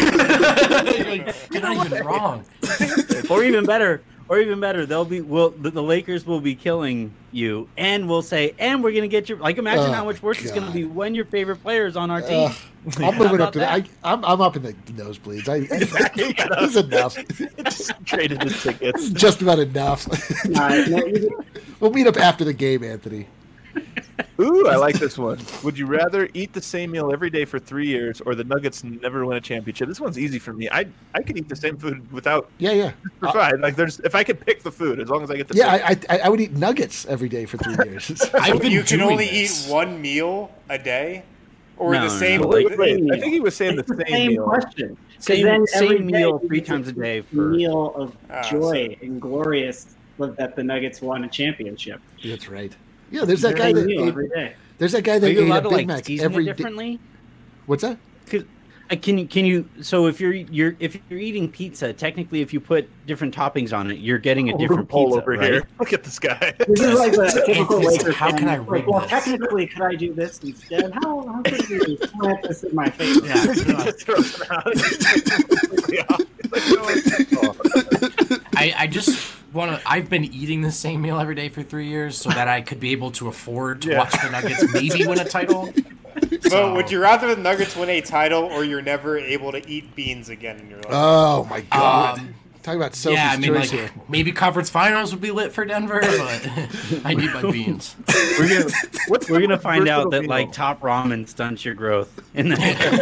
not even wrong. Or even better, or even better, they'll be. Will the, the Lakers will be killing you, and we'll say, and we're gonna get your. Like, imagine Oh, how much worse it's gonna God. be when your favorite player is on our team. Uh, I'm How moving up about to the, I, that? I'm I'm up in the nosebleeds. I, that's enough. It's traded the tickets. Just about enough. Uh, no, you- We'll meet up after the game, Anthony. Ooh, I like this one. Would you rather eat the same meal every day for three years, or the Nuggets never win a championship? This one's easy for me. I I could eat the same food without Yeah, yeah, provide. Like there's if I could pick the food, as long as I get the yeah. I, I I would eat nuggets every day for three years. I've been You can doing only this. eat one meal a day, or No, the no, same. no. Wait, wait, I think he was saying the it's the same, same meal. question. 'Cause Same- then same every day meal you three get times a to day a for- meal of Ah, joy and glorious that the Nuggets won a championship. That's right. Yeah, there's that guy Same that meal ate, every day. there's that guy Are that you ate allowed a to Big like Mac season every it day. differently? What's that? Cause, uh, can you can you so if you're you're if you're eating pizza, technically if you put different toppings on it, you're getting a different Loophole pizza, over right? here. Look at this guy. This is like the typical It's- Lakers how fan. can I Like, rig well, this? technically, could I do this instead? How, how could you plant this in my face? Yeah. Just throws him out. Completely off. Like, no one's- I, I just want to. I've been eating the same meal every day for three years so that I could be able to afford to Yeah. watch the Nuggets maybe win a title. So, So- would you rather the Nuggets win a title, or you're never able to eat beans again in your life? Oh my God! Um, Talk about Sophie's yeah, I mean, choice like here. maybe conference finals would be lit for Denver, but I need my beans. We're gonna What's we're the gonna find out versatile that meal? like top ramen stunts your growth in the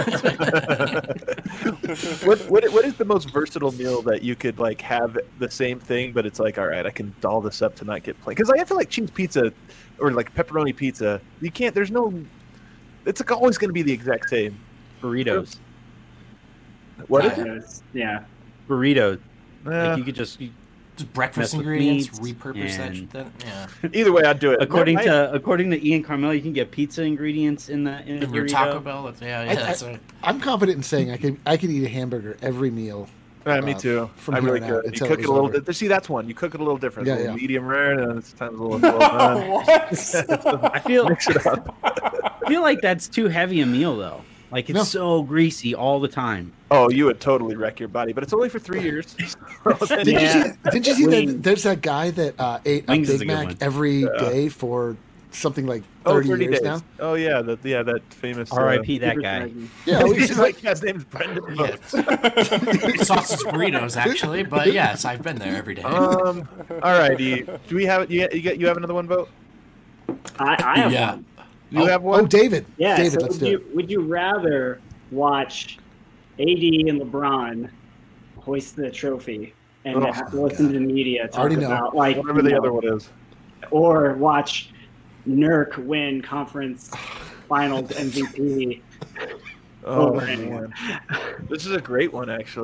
what, what what is the most versatile meal that you could like have the same thing, but it's like, all right, I can doll this up to not get plain? Because like, I feel like cheese pizza or like pepperoni pizza, you can't. There's no. It's like always going to be the exact same. burritos. What is Uh, it? It's- yeah. Burritos. Eh, Like you could just Just breakfast Mess with ingredients, meats repurpose that. and- Then, yeah. either way, I'd do it. according My- to according to Ian Carmel, you can get pizza ingredients in the in, the In your burrito. Taco Bell, that's, yeah, yeah, I- that's I- a, I'm confident in saying I could I could eat a hamburger every meal. Uh, me uh, too. from I here really on out could. You until cook it it was a little over. bit. See, that's one. You cook it a little different. Yeah, a little yeah. medium rare, and sometimes a little well done. What? I feel Mix it up. I feel like that's too heavy a meal though. Like it's No. so greasy all the time. Oh, you would totally wreck your body, but it's only for three years. Did Yeah. you see? Did you see Wings. that? There's that guy that uh, ate a Wings is Big a good Mac one. every day for something like oh, thirty, thirty years days. now. Oh yeah, that yeah, that famous. R I uh, P that guy. Yeah, He's he's like, like, yeah, his name's Brendan. yeah. Vogt. sausage burritos, actually. But yes, I've been there every day. Um. All righty. Do we have you? You get you have another one vote? I, I have yeah. one. You Oh, have one. oh, David. Yeah. David, so let's would do you it. would you rather watch A D and LeBron hoist the trophy and Oh, have to listen to the media talk Already know. about like Whatever you the know, other one is. or watch Nurk win conference finals M V P Oh over anyone? man, this is a great one actually.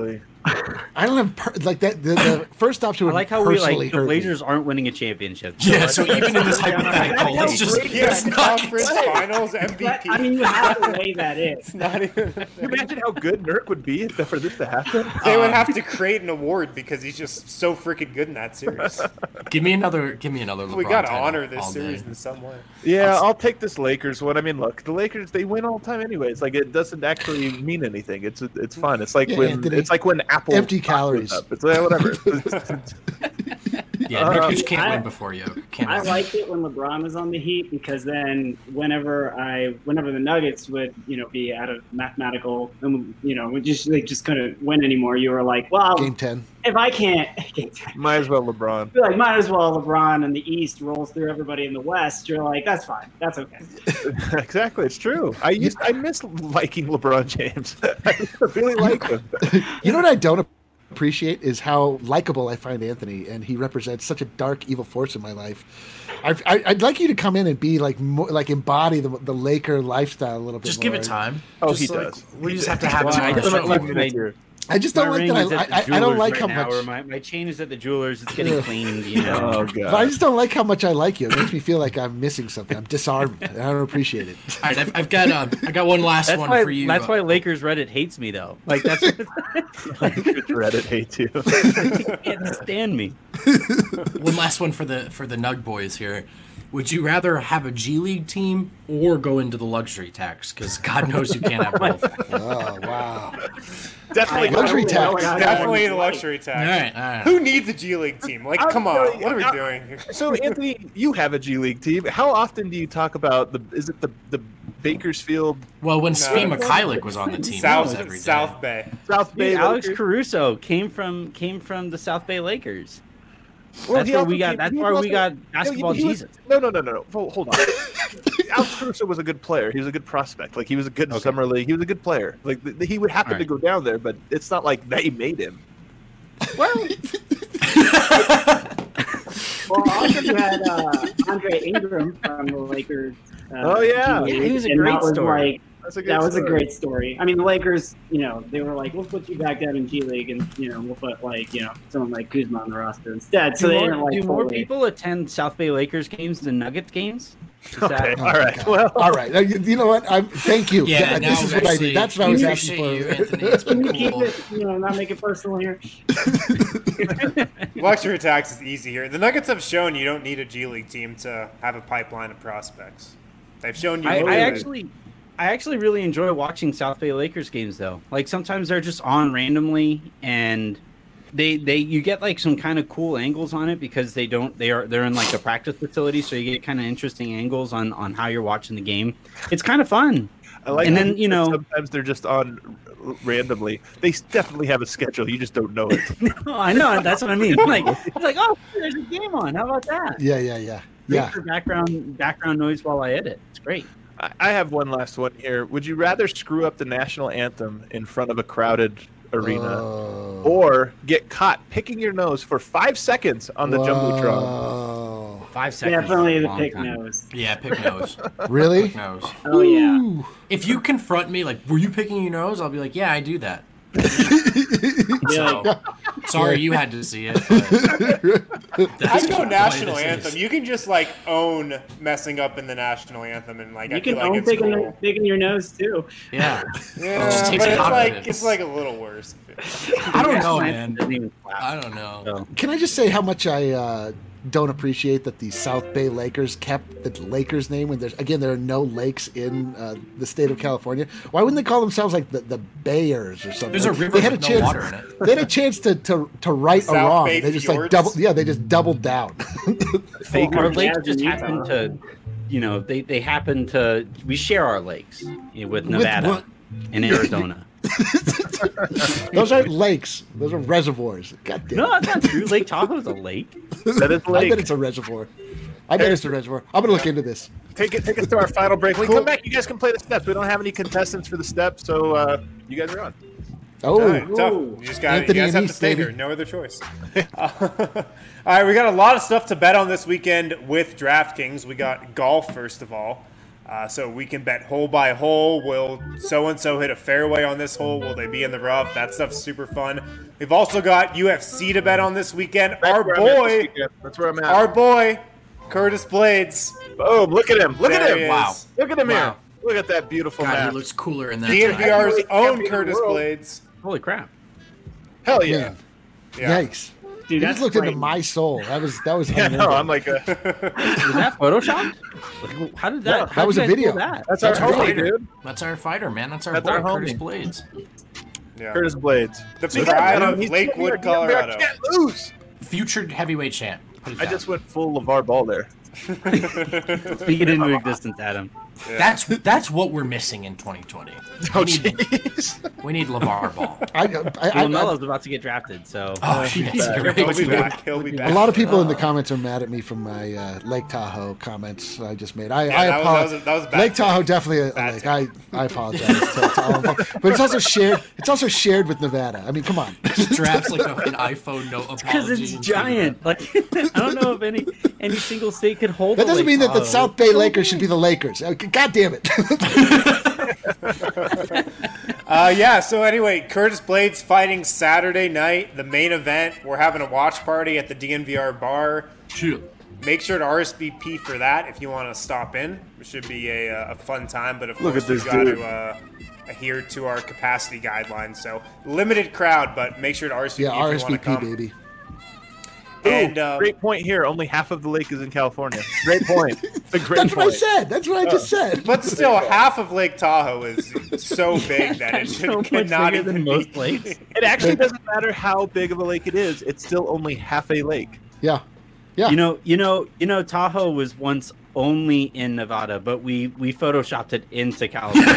I don't have per- like that. The, the first option I would like how we personally like the hurt me. Blazers aren't winning a championship. Yeah, so even in this hypothetical, That's it's just Yeah, it's not. conference finals M V But, P. I mean, you have to weigh that in. It's not even. Can you imagine how good Nurk would be for this to happen? They would Um, have to create an award because he's just so freaking good in that series. Give me another. Give me another. LeBron we gotta title honor this all series day. in some way. Yeah, I'll take this Lakers one. I mean, look, the Lakers they win all the time anyways. Like it doesn't actually mean anything. It's it's fun. It's like Yeah, when Anthony, it's like when Apple empty stock calories. goes up. It's like, whatever. Yeah, Uh, Nurkic can't I- win before you. Can't. I liked it when LeBron was on the Heat because then whenever I, whenever the Nuggets would, you know, be out of mathematical, um, you know, we just they just couldn't win anymore. You were like, well, Game ten. if I can't, Might as well LeBron. you're like, might as well LeBron in the East rolls through everybody in the West. You're like, that's fine, that's okay. Exactly, it's true. I used I miss liking LeBron James. I really like him. You know what I don't appreciate is how likable I find Anthony, and he represents such a dark, evil force in my life. I've, I, I'd like you to come in and be like, more, like embody the, the Laker lifestyle a little bit. Just more. give it time. Oh, Just he like, does. We He just does. have to have Well, him I on the don't show. like Minutes my- here. I just don't My like ring that. is at I, the I, I don't jewelers like right how now, much. or my, my chain is at the jewelers. It's getting cleaned, you know. Oh But I god. just don't like how much I like you. It makes me feel like I'm missing something. I'm disarmed, and I don't appreciate it. All right, I've, I've got um, I got one last That's one why. for you. That's why Lakers Reddit hates me though. Like that's Reddit hates you. they can't stand me. One last one for the for the Nug boys here. Would you rather have a G League team or go into the luxury tax? Because God knows you can't have both. Oh wow! Definitely Luxury tax. Definitely the luxury All tax. right, all right. Who needs a G League team? Like, I'm come on, really- what are we I'm- doing here? So Anthony, you have a G League team. How often do you talk about the? Is it the the Bakersfield Well, when No. Svi Mikhailic was on the team, that South was every day. South Bay. South Bay? Dude, Alex Lakers? Caruso came from came from the South Bay Lakers. Well, That's he where also we got. came- That's he where also- we got No, basketball he was- Jesus. No, no, no, no, no. Hold hold on. Alex Caruso was a good player. He was a good prospect. Like he was a good Okay. summer league. He was a good player. Like th- he would happen All to right. go down there, but it's not like they made him. Well, well, also you had uh, Andre Ingram from the Lakers. Uh, Oh, yeah. G League, Yeah, he was a and great that was story. Like, That's a good that was a story. great story. I mean, the Lakers, you know, they were like, we'll put you back down in G League, and you know, we'll put like, you know, someone like Kuzma on the roster instead. So do they more, didn't like do more fully- people attend South Bay Lakers games than Nuggets games? Is that- Okay, Oh, all right. God. Well, All right. Uh, You, you know what? I'm. Thank you. Yeah, Yeah, now this is what I actually, need. That's what I was we asking for. appreciate you, Anthony. It's Can been you keep cool. it, you know, not make it personal here? Luxury tax is easy here. The Nuggets have shown you don't need a G League team to have a pipeline of prospects. They've shown you. I, can I do it. actually, I actually really enjoy watching South Bay Lakers games though. Like sometimes they're just on randomly, and they they you get like some kind of cool angles on it because they don't they are they're in like a practice facility, so you get kind of interesting angles on on how you're watching the game. It's kind of fun. I like. And how then, you said know- sometimes they're just on r- randomly. They s- definitely have a schedule. You just don't know it. Oh, I know that's what I mean. Like it's like oh, there's a game on. How about that? Yeah, yeah, yeah, Great yeah. for background background noise while I edit. It's great. I I have one last one here. Would you rather screw up the national anthem in front of a crowded arena, Oh. or get caught picking your nose for five seconds on the jumbotron? Whoa. Five seconds. Definitely is a the long pick time. nose. Yeah, pick nose. Really? Pick nose. Oh yeah. Ooh. If you confront me, like, were you picking your nose? I'll be like, yeah, I do that. Yeah. So, sorry you had to see it. But I that's go the way national this anthem. is. You can just like own messing up in the national anthem, and like I You feel can like own it's picking, cool. picking your nose too. Yeah. Yeah, just but takes it's like confidence. it's like a little worse. I don't know, National man. anthem doesn't even clap. I don't know. So. Can I just say how much I uh, don't appreciate that the South Bay Lakers kept the Lakers name when there's again there are no lakes in uh, the state of California. Why wouldn't they call themselves like the, the Bayers or something? There's a Like, river they had with a no chance, water in it. They had a chance to to, to right a South wrong. Bay They just like Fjords? double. Yeah, they just doubled down. Fake Our Jazz lakes in just Utah. happen to, you know, they, they happen to, we share our lakes you know, with With Nevada what? and Arizona. Those aren't lakes. Those are reservoirs. God damn. No, that's not true. Lake Tahoe's a lake. That is I lake. bet it's a reservoir. I bet it's a reservoir. I'm gonna look into this. Take it. Take us to our final break. When we Cool. come back, you guys can play the steps. We don't have any contestants for the steps, so uh, you guys are on. Oh, All right, tough. Ooh. You just got. You Anthony guys and have to East, stay baby. here. No other choice. All right, we got a lot of stuff to bet on this weekend with DraftKings. We got golf first of all. Uh, Uh, so we can bet hole by hole. Will so-and-so hit a fairway on this hole? Will they be in the rough? That stuff's super fun. We've also got U F C to bet on this weekend. That's Our where I'm at this boy, weekend. That's where I'm at. our boy, Curtis Blades. Boom! Look at him! Look There at he him! is. Wow. Look at him Wow. here! Look at that beautiful God, map. he looks cooler in that. D N V R's Heavyweight own champion of the Curtis world. Blades. Holy crap! Hell yeah! Man, Yeah. yikes! Dude, You that's just looked into frightening. my soul. That was that was. Yeah, no, unnerving. I'm like, a, Was that photoshopped? Like, how did that? No, how that was did a you guys video. pull That? that's, That's our our homie, fighter. dude. That's our fighter, man. That's our That's boy, our homie. Curtis Blades. Yeah. Curtis Blades. The So pride yeah, of he's- Lakewood, I Colorado. can't lose. Future heavyweight champ. Put it I down. just went full LeVar Ball there. Speak it into existence, Adam. That's that's what we're missing in twenty twenty. Oh, We need, jeez. we need LeVar Ball. I, I, I, I, Lamelo's about to get drafted, so Oh, shit. You're He'll right. be back. He'll be back. a lot of people in the comments are mad at me from my uh, Lake Tahoe comments I just made. I, Yeah, I that was- apologize. that was a- that was a bad Lake take. Tahoe definitely a, a Bad lake. take. I, I apologize. to, to all of them. But it's also shared. It's also shared with Nevada. I mean, come on. Drafts like a, an iPhone no apology. because it's and giant. Like I don't know if any any single state could hold. That a doesn't Lake mean that the Tahoe. South Bay Lakers should be the Lakers. Uh, God damn it. Uh, yeah, so anyway, Curtis Blades fighting Saturday night, the main event. We're having a watch party at the D N V R bar. Shoot. Make sure to R S V P for that if you want to stop in. It should be a, uh, a fun time, but of Look course at this we've got dude. to uh, adhere to our capacity guidelines. So limited crowd, but make sure to R S V P Yeah, if you R want S to V P, come. baby. And Ooh, uh, great point here. Only half of the lake is in California. Great point. It's a great That's what I point. said. That's what I just said. but still, half of Lake Tahoe is so big that it should so much cannot bigger even than be. most lakes. It actually doesn't matter how big of a lake it is. It's still only half a lake. Yeah. Yeah. You know, you know, you know, Tahoe was once only in Nevada, but we we photoshopped it into California.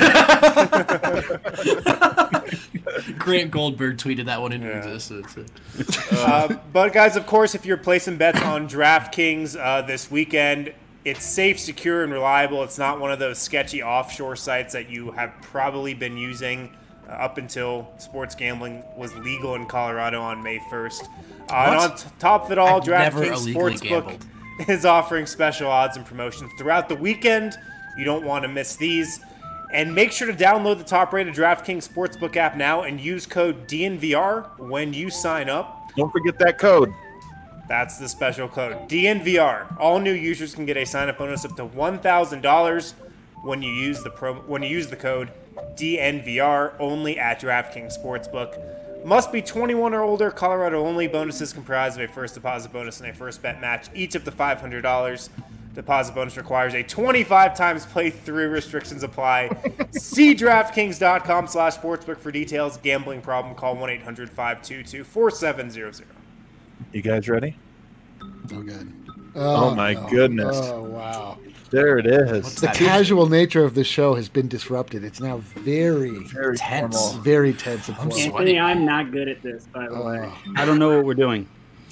Grant Goldberg tweeted that one into Yeah. existence. Uh, but guys, of course, if you're placing bets on DraftKings uh, this weekend, it's safe, secure, and reliable. It's not one of those sketchy offshore sites that you have probably been using uh, up until sports gambling was legal in Colorado on May first. Uh, and What? on t- top of it all, I've never DraftKings illegally Sportsbook gambled. is offering special odds and promotions throughout the weekend. You don't want to miss these. And make sure to download the top-rated DraftKings Sportsbook app now and use code D N V R when you sign up. Don't forget that code. That's the special code, D N V R. All new users can get a sign-up bonus up to one thousand dollars when you use the pro when you use the code D N V R only at DraftKings Sportsbook. Must be twenty-one or older. Colorado only. Bonuses comprised of a first deposit bonus and a first bet match, each up to five hundred dollars. Deposit bonus requires a twenty-five times playthrough. Restrictions apply. See DraftKings.com slash sportsbook for details. Gambling problem, call one eight hundred five two two four seven zero zero. You guys ready? Oh, good. Oh, my no. goodness. Oh, wow. There it is. What's The that? casual nature of the show has been disrupted. It's now very, Very Tense. formal. very tense and I'm formal. Anthony, I'm not good at this, by the way. I don't know what we're doing.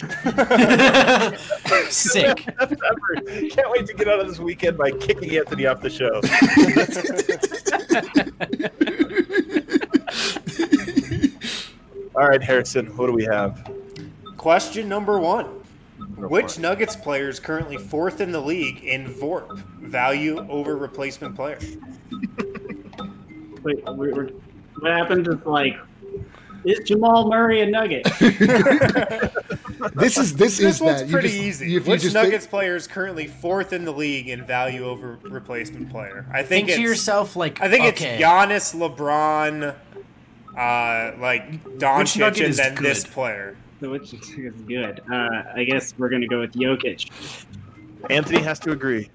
Sick. Best ever. Can't wait to get out of this weekend by kicking Anthony off the show. All right, Harrison, what do we have? Question number one. Go Which for it. Nuggets player is currently fourth in the league in V O R P, value over replacement player? Wait, we're, we're, what happened to like? Is Jamal Murray a Nugget? This is this, This is one's that. You pretty just- easy. if you Which just Nuggets think- player is currently fourth in the league in value over replacement player? I think Think to it's yourself, like, I think okay, it's Giannis, LeBron, uh, like Doncic, Nugget and is then this good? player. So which is good? Uh, I guess we're gonna go with Jokic. Anthony has to agree.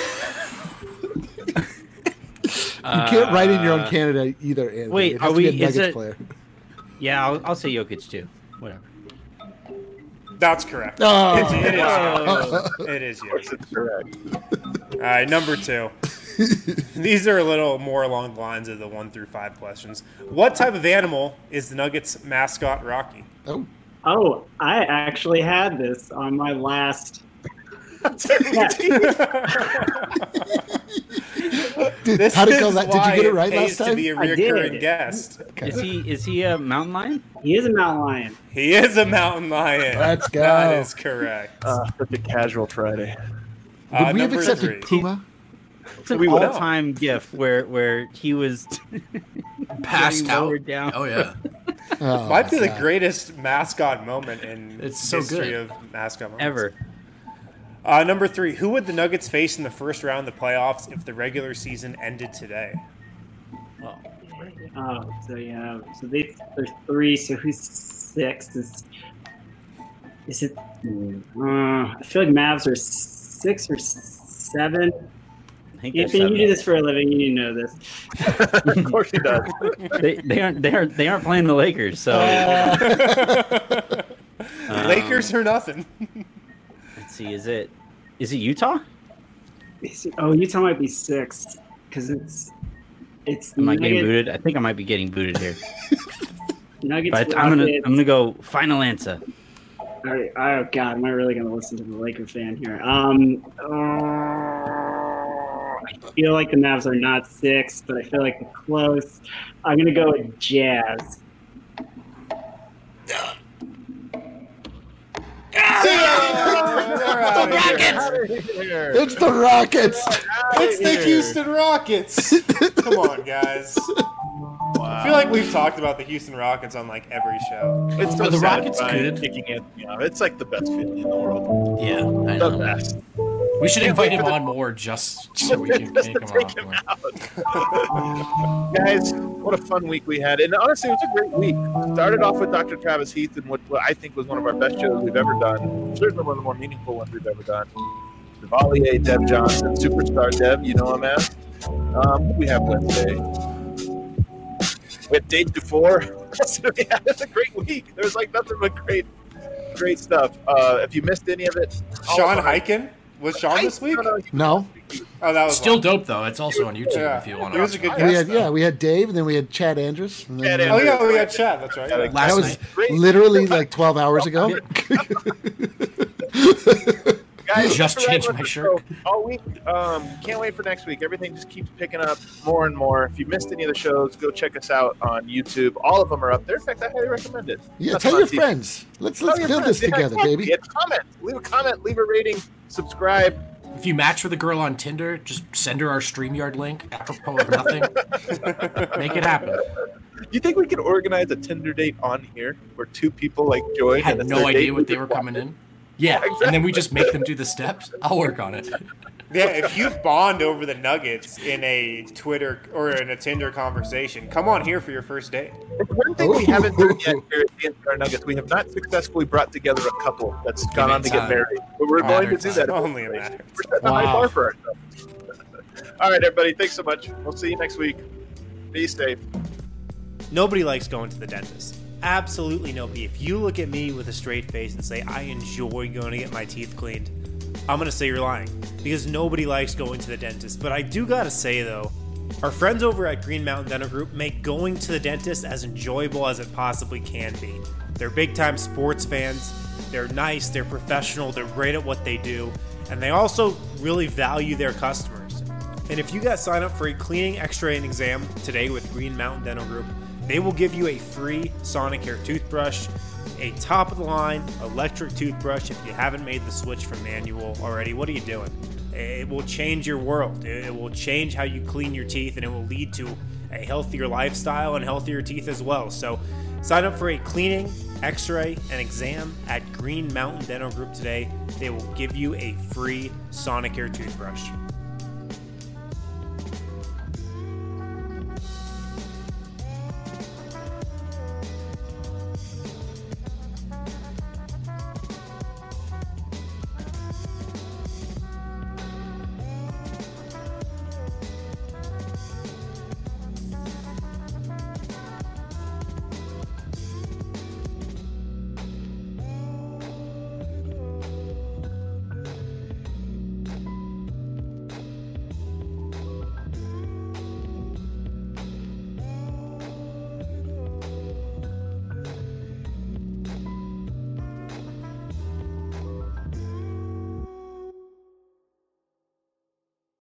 you can't write in your own candidate either. Anthony. wait, it has are to be we- a is Nuggets it- player. Yeah, I'll, I'll say Jokic too. Whatever. That's correct. Oh. It's, it is. Oh. Giannis. It is. Of course, Giannis. it's correct. All right, number two. These are a little more along the lines of the one through five questions. What type of animal is the Nuggets mascot Rocky? Oh, Oh, I actually had this on my last. Dude, This how did is go that? Did you why get it right pays last to be time? a I did. recurring guest. Is he is he a mountain lion? He is a mountain lion. He is a mountain lion. Let's go. That is correct. Uh, such a casual Friday. Uh, Would we have number accepted three. Puma? It's an We will. all-time gif where where he was Passed getting out. lowered down. Oh yeah. Oh, Might be the God. greatest mascot moment in It's so history good. of mascot moments. Ever. Uh, number three, who would the Nuggets face in the first round of the playoffs if the regular season ended today? Oh, so yeah, so they there's three. So who's six? Is is it? Uh, I feel like Mavs are six or seven. I think they're Anthony, you seven. do this for a living. You need to know this. Of course he does. They, they aren't they aren't they aren't playing the Lakers, so Um, Lakers or nothing. let's see. Is it is it Utah? Is it- Oh, Utah might be six because it's it's Am I getting Nuggets- booted? I think I might be getting booted here. Nuggets. But I'm gonna Rockets. I'm gonna go final answer. All right, oh God, am I really gonna listen to the Laker fan here? Um, uh, I feel like the Mavs are not six, but I feel like they're close. I'm gonna go with Jazz. It's the Rockets. It's the Houston Rockets. Come on, guys. I feel like we've talked about the Houston Rockets on like every show. It's so Are the Rockets satisfying good? kicking Anthony out. It's like the best feeling in the world. Yeah, I The know. best. We should Can't invite wait him for the- on more just so we can Just take to him take off. him more. out. Guys, what a fun week we had. And honestly, it was a great week. Started off with Doctor Travis Heath and what, what I think was one of our best shows we've ever done. Certainly one of the more meaningful ones we've ever done. Chevalier, Deb Johnson, Superstar Deb, you know him as. Um, we have Wednesday. We had Dave Dufour. Yeah, it's a great week. There was like nothing but great, great stuff. Uh, if you missed any of it, Sean all of our- Hyken? Was Sean this week? No, no, No, Oh, that was Still one. dope though. It's also on YouTube Yeah. if you want He to. was a good we guest. had though. yeah, we had Dave, and then we had Chad Andrews. And then, Chad Oh, Andrews. yeah, we had Chad. That's right. Yeah, Yeah. Last that was night. Great. literally like twelve hours ago. Guys, Just thanks for changed riding my with shirt. the show all week. Um, can't wait for next week. Everything just keeps picking up more and more. If you missed any of the shows, go check us out on YouTube. All of them are up there. In fact, I highly recommend it. Yeah, That's tell on your T V. friends. Let's Tell let's your build friends. this Yeah, together, exactly. baby. And comment. Leave a comment. Leave a rating. Subscribe. If you match with a girl on Tinder, just send her our StreamYard link apropos of nothing. Make it happen. You think we could organize a Tinder date on here where two people like join? I had and it's no their idea date? what they were coming in. Yeah, and then we just make them do the steps. I'll work on it. Yeah, if you bond over the Nuggets in a Twitter or in a Tinder conversation, come on here for your first date. It's one thing we haven't done yet here at the N C R Nuggets. We have not successfully brought together a couple that's gone on to get time. married. But we're going to do that. Only a matter. We're setting a high Wow. bar for ourselves. All right, everybody. Thanks so much. We'll see you next week. Be safe. Nobody likes going to the dentist. Absolutely nobody. If you look at me with a straight face and say, I enjoy going to get my teeth cleaned, I'm going to say you're lying. Because nobody likes going to the dentist. But I do got to say, though, our friends over at Green Mountain Dental Group make going to the dentist as enjoyable as it possibly can be. They're big-time sports fans. They're nice. They're professional. They're great at what they do. And they also really value their customers. And if you guys sign up for a cleaning, x-ray, and exam today with Green Mountain Dental Group, they will give you a free Sonicare toothbrush, a top-of-the-line electric toothbrush. If you haven't made the switch from manual already, what are you doing? It will change your world. It will change how you clean your teeth, and it will lead to a healthier lifestyle and healthier teeth as well. So sign up for a cleaning, x-ray, and exam at Green Mountain Dental Group today. They will give you a free Sonicare toothbrush.